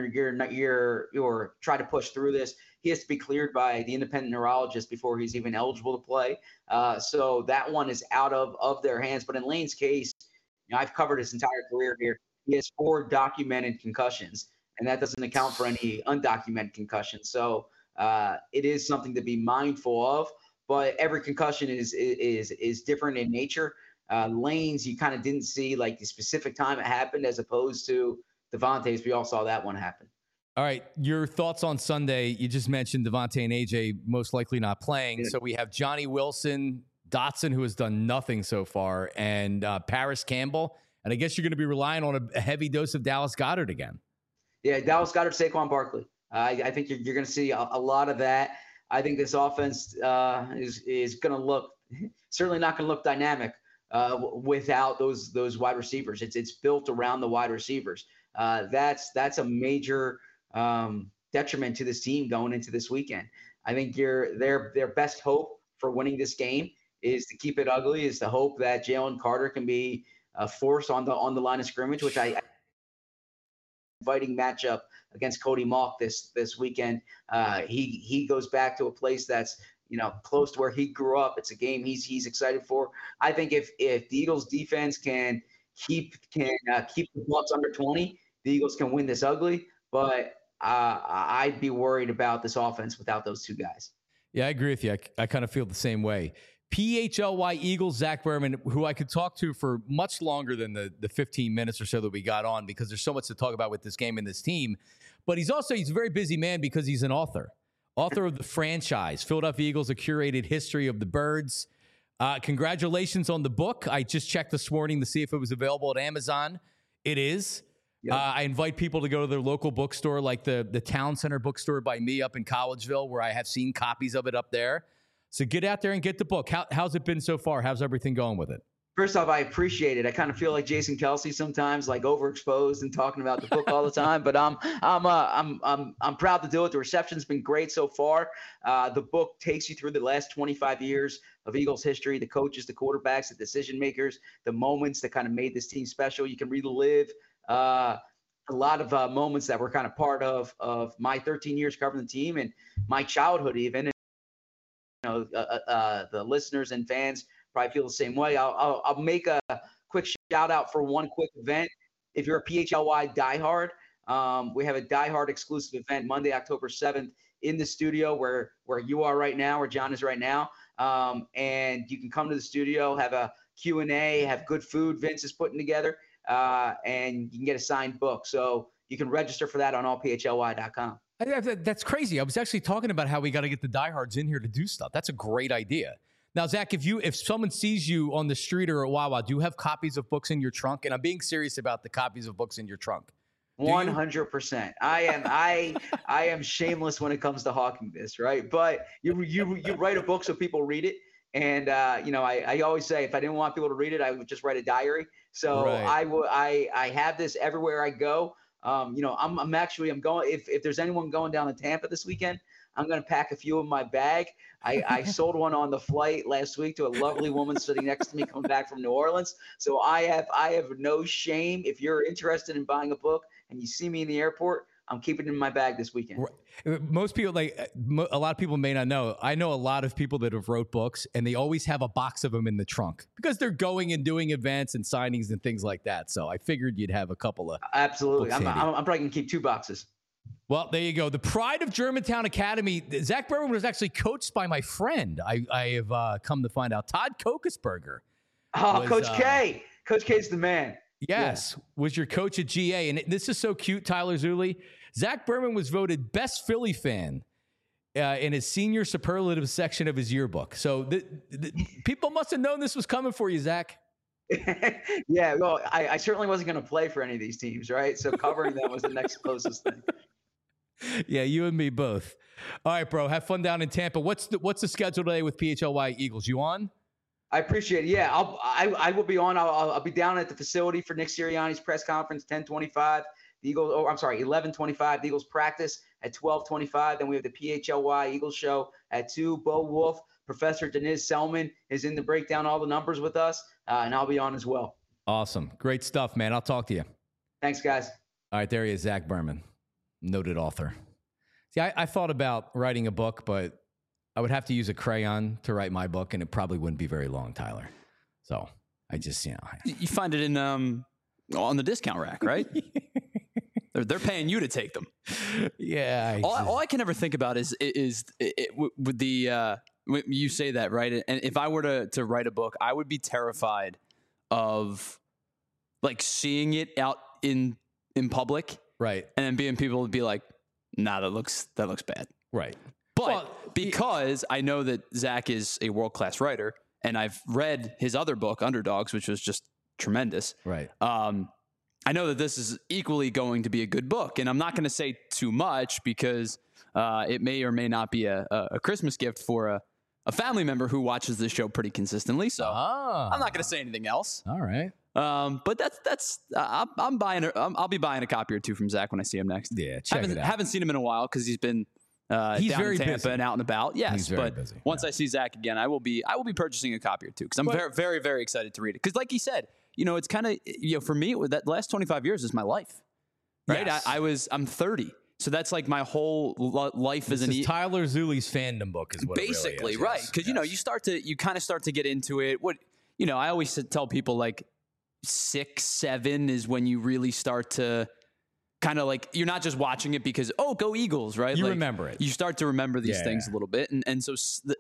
try to push through this. He has to be cleared by the independent neurologist before he's even eligible to play. So that one is out of their hands. But in Lane's case, I've covered his entire career here. He has 4 documented concussions, and that doesn't account for any undocumented concussions. So it is something to be mindful of. But every concussion is different in nature. Lane's, you kind of didn't see the specific time it happened, as opposed to Devontae's. We all saw that one happen. All right, your thoughts on Sunday. You just mentioned Devontae and AJ most likely not playing. Yeah. So we have Johnny Wilson, Dotson, who has done nothing so far, and Paris Campbell. And I guess you're going to be relying on a heavy dose of Dallas Goedert again. Yeah, Dallas Goedert, Saquon Barkley. I think you're going to see a lot of that. I think this offense is going to look certainly not going to look dynamic without those wide receivers. It's built around the wide receivers. That's a major detriment to this team going into this weekend. I think their best hope for winning this game is to keep it ugly, is to hope that Jalen Carter can be a force on the line of scrimmage, which I inviting matchup against Cody Mauch this weekend. He goes back to a place that's close to where he grew up. It's a game he's excited for. I think if the Eagles defense can keep the Bucs under 20, the Eagles can win this ugly. But I'd be worried about this offense without those two guys. Yeah, I agree with you. I kind of feel the same way. PHLY Eagles, Zach Berman, who I could talk to for much longer than the 15 minutes or so that we got on, because there's so much to talk about with this game and this team. But he's a very busy man because he's an author of the franchise, Philadelphia Eagles, A Curated History of the Birds. Congratulations on the book. I just checked this morning to see if it was available at Amazon. It is. Yep. I invite people to go to their local bookstore, like the Town Center bookstore by me up in Collegeville, where I have seen copies of it up there. So get out there and get the book. How's it been so far? How's everything going with it? First off, I appreciate it. I kind of feel like Jason Kelce sometimes, like overexposed and talking about the book all the time. But I'm proud to do it. The reception's been great so far. The book takes you through the last 25 years of Eagles history, the coaches, the quarterbacks, the decision makers, the moments that kind of made this team special. You can relive a lot of moments that were kind of part of my 13 years covering the team and my childhood even. The listeners and fans probably feel the same way. I'll make a quick shout out for one quick event. If you're a PHLY diehard, we have a diehard exclusive event Monday, October 7th in the studio where you are right now, where John is right now. And you can come to the studio, have a Q&A, have good food Vince is putting together, and you can get a signed book. So you can register for that on allphly.com. That's crazy. I was actually talking about how we got to get the diehards in here to do stuff. That's a great idea. Now, Zach, if someone sees you on the street or at Wawa, do you have copies of books in your trunk? And I'm being serious about the copies of books in your trunk. 100%. I am shameless when it comes to hawking this, right? But you write a book so people read it. And I always say if I didn't want people to read it, I would just write a diary. So right. I have this everywhere I go. I'm going, if there's anyone going down to Tampa this weekend, I'm going to pack a few in my bag. I sold one on the flight last week to a lovely woman sitting next to me coming back from New Orleans. So I have no shame. If you're interested in buying a book and you see me in the airport, I'm keeping it in my bag this weekend. Most people, a lot of people may not know. I know a lot of people that have wrote books, and they always have a box of them in the trunk because they're going and doing events and signings and things like that. So I figured you'd have a couple of. Absolutely. I'm probably going to keep 2 boxes. Well, there you go. The pride of Germantown Academy. Zach Berman was actually coached by my friend. I have come to find out. Todd Kokesberger. Oh, Coach K. Coach K's the man. Yes, was your coach at GA. And this is so cute, Tyler Zulli. Zach Berman was voted best Philly fan in his senior superlative section of his yearbook. So people must have known this was coming for you, Zach. Yeah, well, I certainly wasn't going to play for any of these teams, right? So covering them was the next closest thing. Yeah, you and me both. All right, bro. Have fun down in Tampa. What's the schedule today with PHLY Eagles? You on? I appreciate it. Yeah, I will be on. I'll be down at the facility for Nick Sirianni's press conference, 10:25. The Eagles. 11:25. The Eagles practice at 12:25. Then we have the PHLY Eagles show at 2. Bo Wolf, Professor Deniz Selman is in to break down all the numbers with us, and I'll be on as well. Awesome, great stuff, man. I'll talk to you. Thanks, guys. All right, there he is, Zach Berman, noted author. See, I thought about writing a book, but I would have to use a crayon to write my book, and it probably wouldn't be very long, Tyler. So I just, you find it in on the discount rack, right? They're paying you to take them. Yeah. All I can ever think about is with the you say that, right? And if I were to write a book, I would be terrified of like seeing it out in public, right? And then people would be like, nah, that looks bad. Right. But Well, because I know that Zach is a world-class writer, and I've read his other book, Underdogs, which was just tremendous. Right. I know that this is equally going to be a good book, and I'm not going to say too much because it may or may not be a Christmas gift for a family member who watches this show pretty consistently. So I'm not going to say anything else. All right. But that's I'm buying. I'll be buying a copy or two from Zach when I see him next. Yeah, check it out. Haven't seen him in a while because he's been He's down very in Tampa busy. and out and about. Yes, He's very but busy. once I see Zach again, I will be purchasing a copy or two because I'm very, very, very excited to read it. Because, like he said, it's kind of for me, that last 25 years is my life. Right? Yes. I'm 30. So that's like my whole life This as an is Tyler Zuli's fandom book is what basically it really is. right Yes, because you kind of start to get into it. I always tell people like 6, 7 is when you really start to kind of like you're not just watching it because go Eagles, right? You like, remember it. You start to remember these Yeah. things a little bit, and so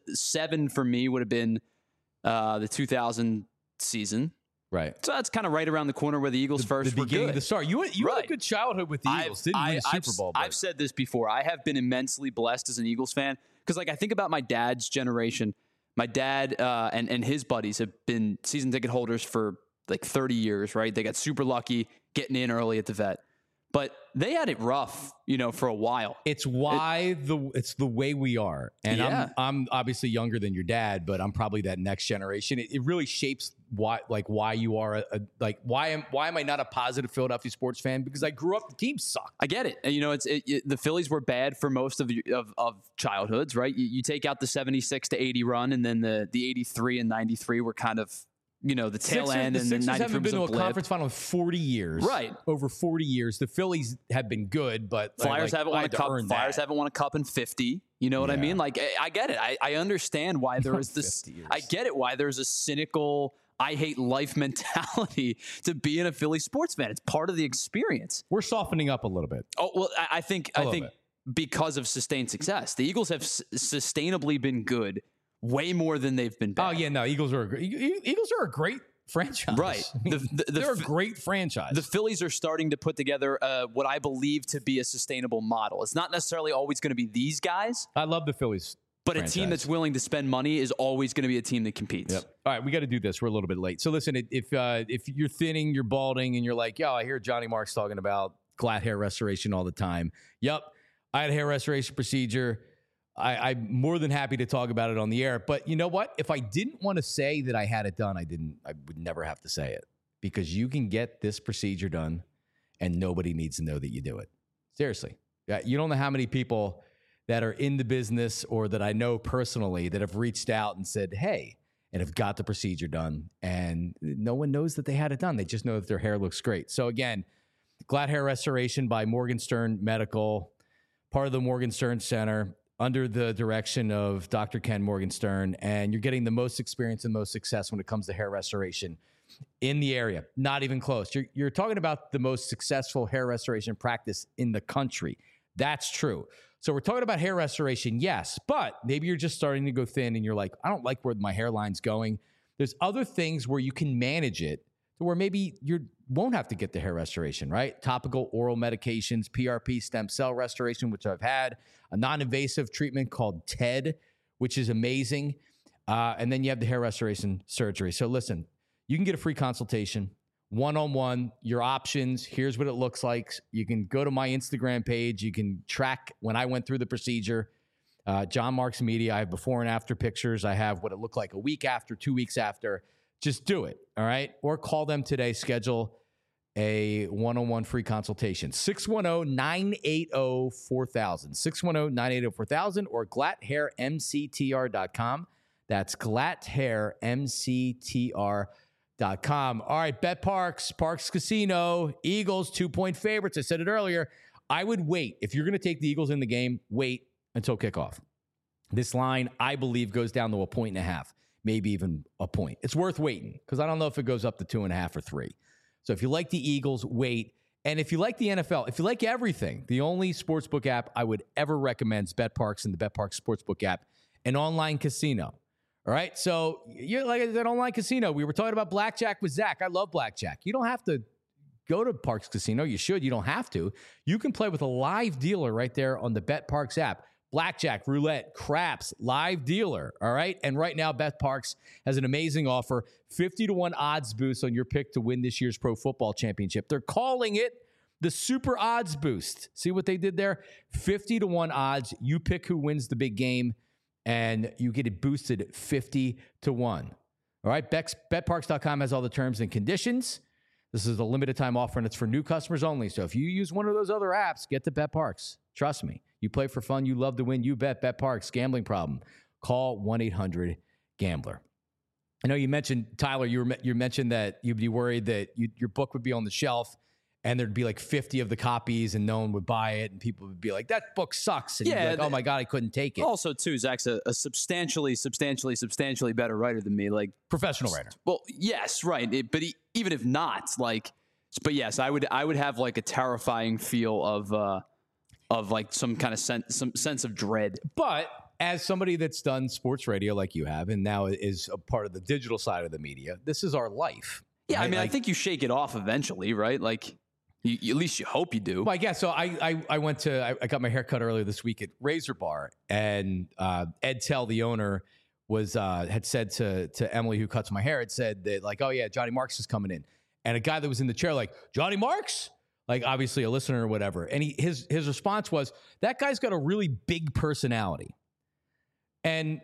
7 for me would have been the 2000 season. Right. So that's kind of right around the corner where the Eagles first the were beginning good. of the start. You had a Right. good childhood with the Eagles, didn't you? Win the Super Bowl. I've said this before. I have been immensely blessed as an Eagles fan because, like, I think about my dad's generation. My dad and his buddies have been season ticket holders for like 30 years, right? They got super lucky getting in early at the Vet, but they had it rough, for a while. It's why it's the way we are, and Yeah. I'm obviously younger than your dad, but I'm probably that next generation. It really shapes why you are why am I not a positive Philadelphia sports fan? Because I grew up, the team sucked. I get it. And, the Phillies were bad for most of childhoods, right? You take out the 76 to 80 run, and then the 83 and 93 were kind of the tail end, and the Sixers 93 haven't been to was a a blip. conference final in 40 years. Right. Over 40 years. The Phillies have been good, but Flyers haven't won a cup. Flyers that. haven't won a cup in 50. You know what I Yeah. mean? Like, I get it. I understand why there is this. 50 years. I get it why there's a cynical, I hate life mentality to being a Philly sports fan. It's part of the experience. We're softening up a little bit. Oh well, I think bit. because of sustained success, the Eagles have sustainably been good, way more than they've been bad. Oh yeah, no, Eagles are a great franchise. Right. I mean, they're a great franchise. The Phillies are starting to put together what I believe to be a sustainable model. It's not necessarily always going to be these guys, I love the Phillies. but franchise. a team that's willing to spend money is always going to be a team that competes. Yep. All right, we got to do this. We're a little bit late. So listen, if you're thinning, you're balding, and you're like, yo, I hear Johnny Marks talking about glatt hair restoration all the time. Yep, I had a hair restoration procedure. I'm more than happy to talk about it on the air. But you know what? If I didn't want to say that I had it done, I would never have to say it because you can get this procedure done and nobody needs to know that you do it. Seriously. Yeah, you don't know how many people that are in the business or that I know personally that have reached out and said, hey, and have got the procedure done. And no one knows that they had it done. They just know that their hair looks great. So again, glatt hair restoration by Morgenstern Medical, part of the Morgenstern Center, under the direction of Dr. Ken Morgenstern, and you're getting the most experience and most success when it comes to hair restoration in the area. Not even close. You're talking about the most successful hair restoration practice in the country. That's true. So we're talking about hair restoration, yes, but maybe you're just starting to go thin and you're like, I don't like where my hairline's going. There's other things where you can manage it to where maybe you won't have to get the hair restoration, right? Topical oral medications, PRP stem cell restoration, which I've had, a non-invasive treatment called TED, which is amazing. And then you have the hair restoration surgery. So listen, you can get a free consultation, one-on-one, your options. Here's what it looks like. You can go to my Instagram page. You can track when I went through the procedure. John Marks Media. I have before and after pictures. I have what it looked like a week after, 2 weeks after. Just do it, all right? Or call them today. Schedule a one-on-one free consultation. 610-980-4000. 610-980-4000 or glatthairmctr.com. That's glatthairmctr.com. All right, Bet Parks Casino, Eagles 2-point favorites. I said it earlier. I would wait. If you're going to take the Eagles in the game, wait until kickoff. This line, I believe, goes down to 1.5, maybe even a point. It's worth waiting because I don't know if it goes up to 2.5 or 3. So if you like the Eagles, wait. And if you like the NFL, if you like everything, the only sportsbook app I would ever recommend is BetParks and the BetParks Sportsbook app, an online casino. All right? So you're like an online casino. We were talking about blackjack with Zach. I love blackjack. You don't have to go to Parx Casino. You should. You don't have to. You can play with a live dealer right there on the BetParx app. Blackjack, roulette, craps, live dealer. All right. And right now, BetParx has an amazing offer, 50-1 odds boost on your pick to win this year's Pro Football Championship. They're calling it the Super Odds Boost. See what they did there? 50-1 odds. You pick who wins the big game, and you get it boosted 50-1. All right. BetParx.com has all the terms and conditions. This is a limited time offer, and it's for new customers only. So if you use one of those other apps, get to BetParx. Trust me. You play for fun. You love to win. You bet. BetParx. Gambling problem. Call 1-800-GAMBLER. I know you mentioned, Tyler, you mentioned that you'd be worried that your book would be on the shelf and there'd be like 50 of the copies and no one would buy it and people would be like, that book sucks. And you'd be like, oh my God, I couldn't take it. Also, too, Zach's a substantially better writer than me. Like professional writer. Well, yes, right. Even if not, but yes, I would have like a terrifying feel of like some kind of some sense of dread. But as somebody that's done sports radio like you have and now is a part of the digital side of the media, this is our life. Yeah, right? I mean, I think you shake it off eventually, right? Like, at least you hope you do. Well, I guess so. I got my hair cut earlier this week at Razor Bar, and Ed Tell, the owner, had said to Emily, who cuts my hair, had said that, like, oh yeah, Johnny Marks is coming in, and a guy that was in the chair like, Johnny Marks, like obviously a listener or whatever, and his response was, that guy's got a really big personality. And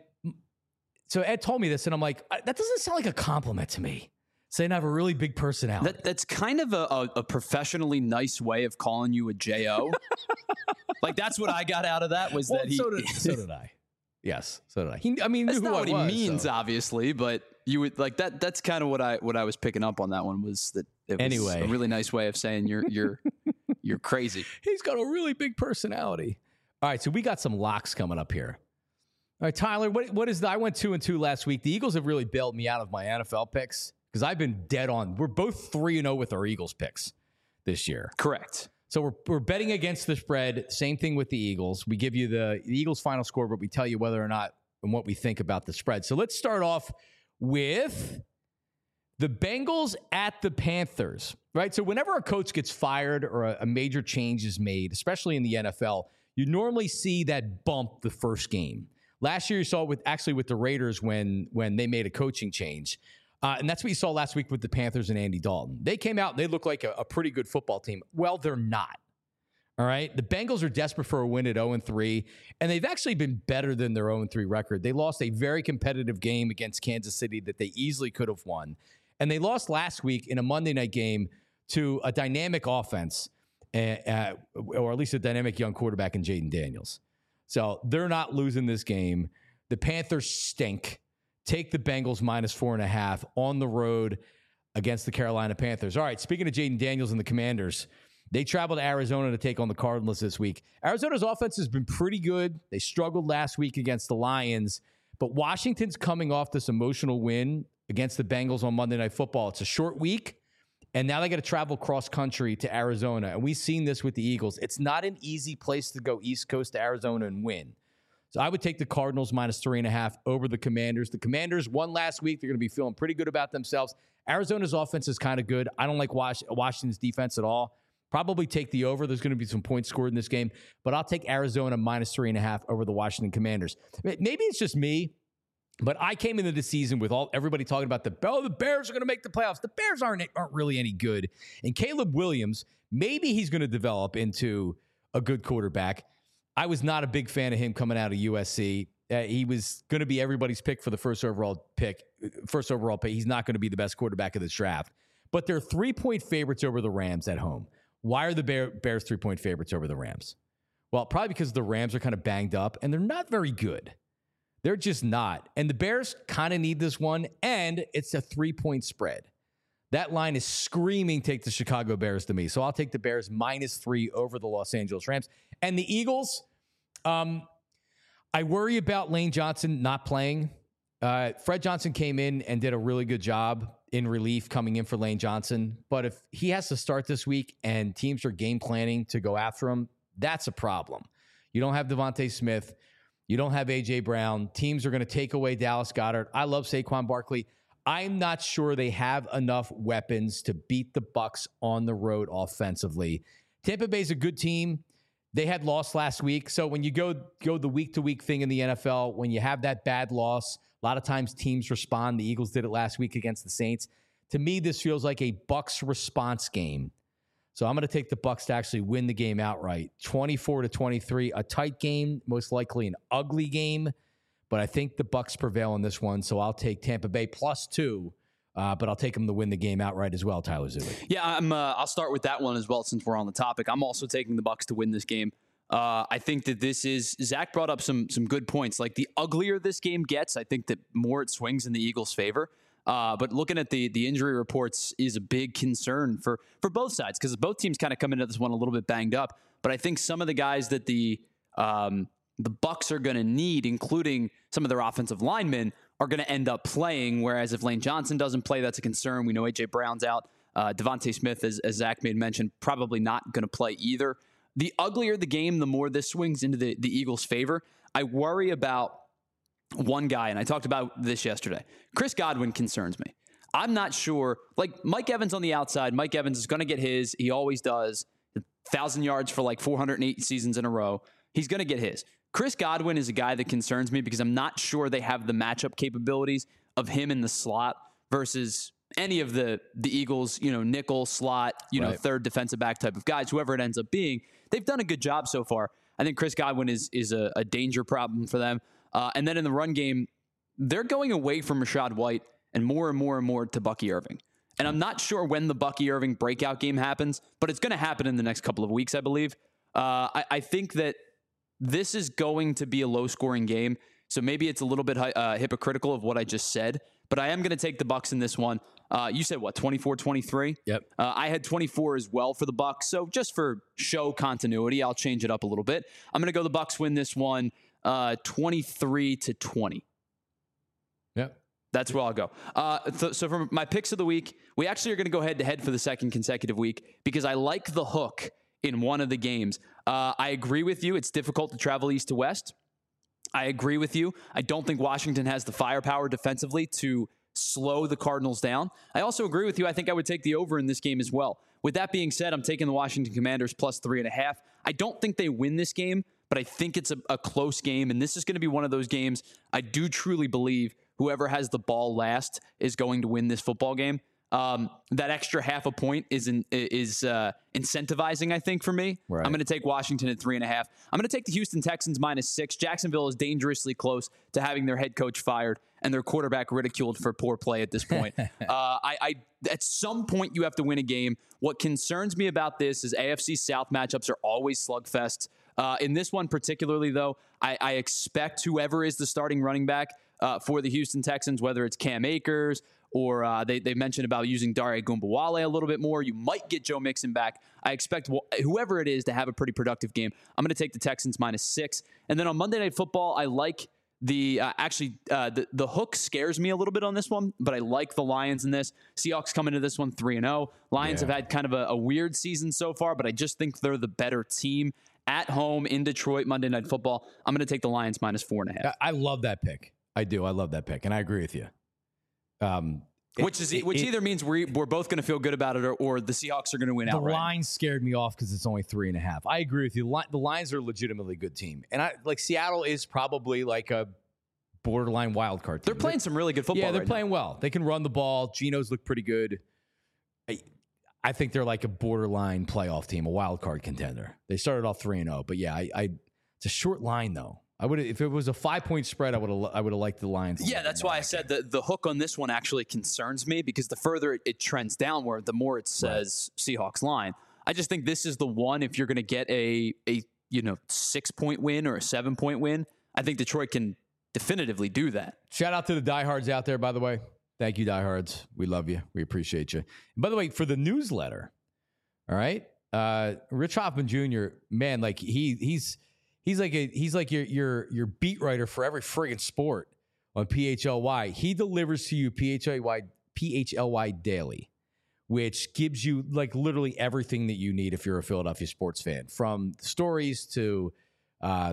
so Ed told me this, and I'm like, that doesn't sound like a compliment to me. Saying I have a really big personality. That's kind of a professionally nice way of calling you a J.O. Like, that's what I got out of that was that he... So did I. Yes, so did I. That's not what he means, obviously, but you would like that. That's kind of what I was picking up on that one was that it was a really nice way of saying you're crazy. He's got a really big personality. All right, so we got some locks coming up here. All right, Tyler, what is I went 2-2 last week. The Eagles have really bailed me out of my NFL picks because I've been dead on. We're both 3-0 with our Eagles picks this year. Correct. So we're betting against the spread. Same thing with the Eagles. We give you the Eagles final score, but we tell you whether or not and what we think about the spread. So let's start off with the Bengals at the Panthers, right? So whenever a coach gets fired or a major change is made, especially in the NFL, you normally see that bump the first game. Last year you saw it with the Raiders when they made a coaching change. And that's what you saw last week with the Panthers and Andy Dalton. They came out and they look like a pretty good football team. Well, they're not. All right. The Bengals are desperate for a win at 0-3, and they've actually been better than their 0-3 record. They lost a very competitive game against Kansas City that they easily could have won. And they lost last week in a Monday night game to a dynamic offense, or at least a dynamic young quarterback in Jaden Daniels. So they're not losing this game. The Panthers stink. Take the Bengals -4.5 on the road against the Carolina Panthers. All right, speaking of Jaden Daniels and the Commanders, they traveled to Arizona to take on the Cardinals this week. Arizona's offense has been pretty good. They struggled last week against the Lions, but Washington's coming off this emotional win against the Bengals on Monday Night Football. It's a short week, and now they got to travel cross-country to Arizona, and we've seen this with the Eagles. It's not an easy place to go East Coast to Arizona and win. So I would take the Cardinals -3.5 over the Commanders. The Commanders won last week. They're going to be feeling pretty good about themselves. Arizona's offense is kind of good. I don't like Washington's defense at all. Probably take the over. There's going to be some points scored in this game, but I'll take Arizona -3.5 over the Washington Commanders. Maybe it's just me, but I came into the season with everybody talking about the Bears are going to make the playoffs. The Bears aren't really any good. And Caleb Williams, maybe he's going to develop into a good quarterback. I was not a big fan of him coming out of USC. He was going to be everybody's pick for the first overall pick. He's not going to be the best quarterback of this draft. But they're 3-point favorites over the Rams at home. Why are the Bears 3-point favorites over the Rams? Well, probably because the Rams are kind of banged up, and they're not very good. They're just not. And the Bears kind of need this one, and it's a 3-point spread. That line is screaming, take the Chicago Bears to me. So I'll take the Bears -3 over the Los Angeles Rams. And the Eagles, I worry about Lane Johnson not playing. Fred Johnson came in and did a really good job in relief coming in for Lane Johnson. But if he has to start this week and teams are game planning to go after him, that's a problem. You don't have Devontae Smith. You don't have A.J. Brown. Teams are going to take away Dallas Goedert. I love Saquon Barkley. I'm not sure they have enough weapons to beat the Bucs on the road offensively. Tampa Bay's a good team. They had lost last week. So when you go the week-to-week thing in the NFL, when you have that bad loss, a lot of times teams respond. The Eagles did it last week against the Saints. To me, this feels like a Bucs response game. So I'm going to take the Bucs to actually win the game outright. 24-23, a tight game, most likely an ugly game. But I think the Bucs prevail in this one. So I'll take Tampa Bay +2. But I'll take them to win the game outright as well, Tyler Zuli. Yeah, I'll start with that one as well since we're on the topic. I'm also taking the Bucs to win this game. I think that this is Zach brought up some good points. Like the uglier this game gets, I think that more it swings in the Eagles' favor. But looking at the injury reports is a big concern for both sides because both teams kind of come into this one a little bit banged up. But I think some of the guys that the Bucs are going to need, including some of their offensive linemen, are going to end up playing, whereas if Lane Johnson doesn't play, that's a concern. We know A.J. Brown's out. Devontae Smith, as Zach made mention, probably not going to play either. The uglier the game, the more this swings into the Eagles' favor. I worry about one guy, and I talked about this yesterday. Chris Godwin concerns me. I'm not sure. Like Mike Evans on the outside, Mike Evans is going to get his. He always does. 1,000 yards for like 408 seasons in a row. He's going to get his. Chris Godwin is a guy that concerns me because I'm not sure they have the matchup capabilities of him in the slot versus any of the Eagles, nickel, slot, third defensive back type of guys, whoever it ends up being. They've done a good job so far. I think Chris Godwin is a danger problem for them. And then in the run game, they're going away from Rachaad White and more to Bucky Irving. And I'm not sure when the Bucky Irving breakout game happens, but it's going to happen in the next couple of weeks, I believe. I think that this is going to be a low-scoring game, so maybe it's a little bit hypocritical of what I just said, but I am going to take the Bucs in this one. You said, 24-23? Yep. I had 24 as well for the Bucs, so just for show continuity, I'll change it up a little bit. I'm going to go the Bucs win this one 23-20. Yep. That's where I'll go. So for my picks of the week, we actually are going to go head-to-head for the second consecutive week because I like the hook in one of the games. I agree with you. It's difficult to travel east to west. I agree with you. I don't think Washington has the firepower defensively to slow the Cardinals down. I also agree with you. I think I would take the over in this game as well. With that being said, I'm taking the Washington Commanders +3.5. I don't think they win this game, but I think it's a close game, and this is going to be one of those games I do truly believe whoever has the ball last is going to win this football game. That extra half a point is incentivizing, I think, for me. Right. I'm going to take Washington at 3.5. I'm going to take the Houston Texans -6. Jacksonville is dangerously close to having their head coach fired and their quarterback ridiculed for poor play at this point. At some point, you have to win a game. What concerns me about this is AFC South matchups are always slugfests. In this one particularly, though, I expect whoever is the starting running back for the Houston Texans, whether it's Cam Akers or they mentioned about using Dare Ogunbowale a little bit more. You might get Joe Mixon back. I expect whoever it is to have a pretty productive game. I'm going to take the Texans -6. And then on Monday Night Football, I like the hook scares me a little bit on this one, but I like the Lions in this. Seahawks come into this one 3-0. Lions have had kind of a weird season so far, but I just think they're the better team at home in Detroit, Monday Night Football. I'm going to take the Lions -4.5. I love that pick. I do. I love that pick, and I agree with you. Which either means we're both going to feel good about it, or the Seahawks are going to win outright. The line scared me off because it's only 3.5. I agree with you. The Lions are a legitimately good team, and Seattle is probably like a borderline wild card team. They're playing some really good football. Yeah, they're playing well. They can run the ball. Geno's look pretty good. I think they're like a borderline playoff team, a wild card contender. They started off 3-0, but yeah, it's a short line though. I would, if it was a 5-point spread, I would have liked the Lions. Yeah, that's why I said the hook on this one actually concerns me because the further it trends downward, the more it says Seahawks line. I just think this is the one. If you're going to get a 6-point win or a 7-point win, I think Detroit can definitively do that. Shout out to the diehards out there, by the way. Thank you, diehards. We love you. We appreciate you. And by the way, for the newsletter, all right, Rich Hoffman Jr. Man, like he's like your beat writer for every friggin' sport on PHLY. He delivers to you PHLY daily, which gives you like literally everything that you need if you're a Philadelphia sports fan, from stories to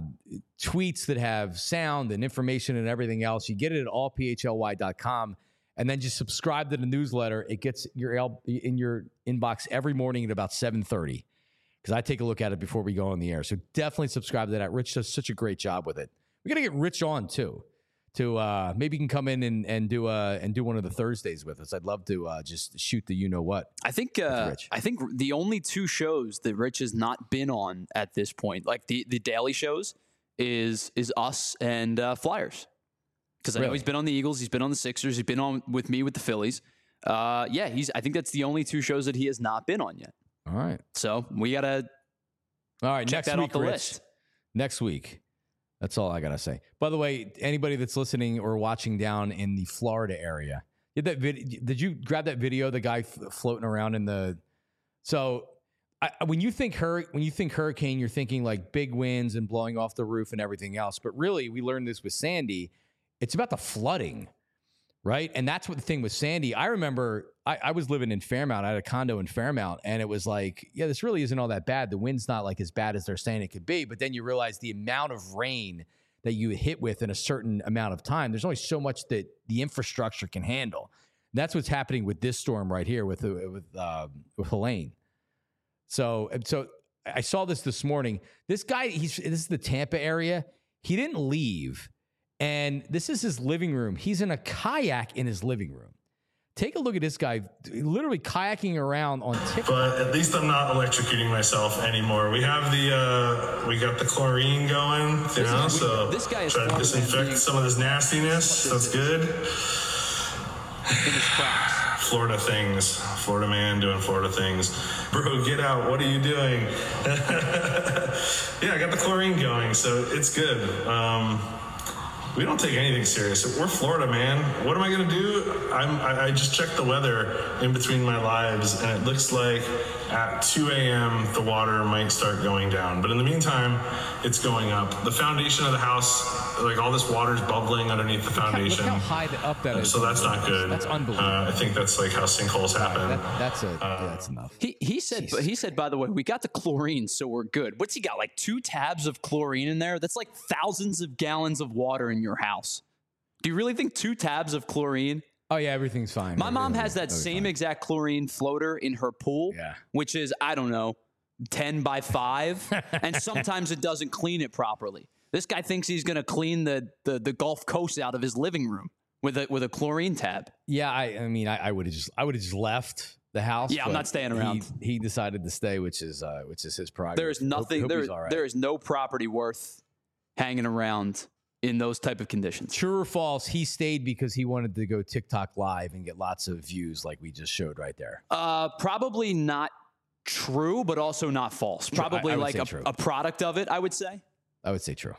tweets that have sound and information and everything else. You get it at allphly.com. and then just subscribe to the newsletter. It gets in your inbox every morning at about 7:30 because I take a look at it before we go on the air. So definitely subscribe to that. Rich does such a great job with it. We got to get Rich on too. To maybe he can come in and do one of the Thursdays with us. I'd love to just shoot the you know what. I think the only 2 shows that Rich has not been on at this point, like the daily shows, is us and Flyers. Because I know he's been on the Eagles, he's been on the Sixers, he's been on with me with the Phillies. I think that's the only 2 shows that he has not been on yet. All right. So we gotta check next that week, off the Rich. list. Next week. That's all I gotta say. By the way, anybody that's listening or watching down in the Florida area, did you grab that video? The guy floating around in the. So when you think hurricane, you're thinking like big winds and blowing off the roof and everything else. But really, we learned this with Sandy. It's about the flooding, right? And that's what the thing with Sandy. I remember I was living in Fairmount. I had a condo in Fairmount, and it was like, yeah, this really isn't all that bad. The wind's not like as bad as they're saying it could be. But then you realize the amount of rain that you hit with in a certain amount of time. There's only so much that the infrastructure can handle. And that's what's happening with this storm right here with Helene. So I saw this morning. This guy, this is the Tampa area. He didn't leave. And this is his living room. He's in a kayak in his living room. Take a look at this guy literally kayaking around on TikTok. But at least I'm not electrocuting myself anymore. We have we got the chlorine going, so this guy is try to disinfect some of this nastiness. That's good. In his tracks. Florida things. Florida man doing Florida things. Bro, get out. What are you doing? Yeah, I got the chlorine going, so it's good. We don't take anything serious. We're Florida, man. What am I going to do? I just checked the weather in between my lives, and it looks like at 2 a.m. the water might start going down. But in the meantime, it's going up. The foundation of the house, like all this water's bubbling underneath the foundation. Look how high up that is. So that's not good. That's unbelievable. I think that's like how sinkholes happen. That's enough. He said, by the way, we got the chlorine, so we're good. What's he got? Like 2 tabs of chlorine in there? That's like thousands of gallons of water in your house. Do you really think 2 tabs of chlorine? Oh yeah, everything's fine. My mom has that same exact chlorine floater in her pool, which is, I don't know, 10 by 5, and sometimes it doesn't clean it properly. This guy thinks he's going to clean the Gulf Coast out of his living room with a chlorine tab. Yeah, I mean, I would have just left the house. Yeah, I'm not staying around. He decided to stay, which is his prerogative. There is nothing. There is no property worth hanging around in those type of conditions. True or false? He stayed because he wanted to go TikTok live and get lots of views, like we just showed right there. Probably not true, but also not false. Probably like a product of it, I would say. I would say true.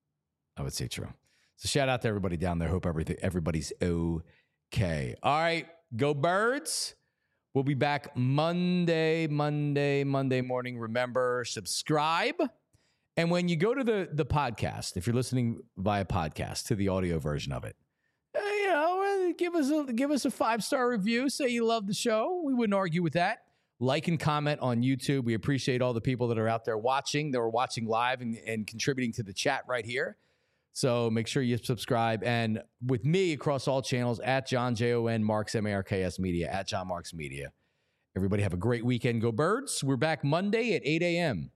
So shout out to everybody down there. Hope everybody's okay. All right, go Birds. We'll be back Monday morning. Remember, subscribe. And when you go to the podcast, if you're listening via podcast to the audio version of it, give us a 5-star review. Say you love the show. We wouldn't argue with that. Like and comment on YouTube. We appreciate all the people that are out there watching, that are watching live and contributing to the chat right here. So make sure you subscribe. And with me across all channels, at John, Jon Marks, Marks Media, at John Marks Media. Everybody have a great weekend. Go Birds. We're back Monday at 8 a.m.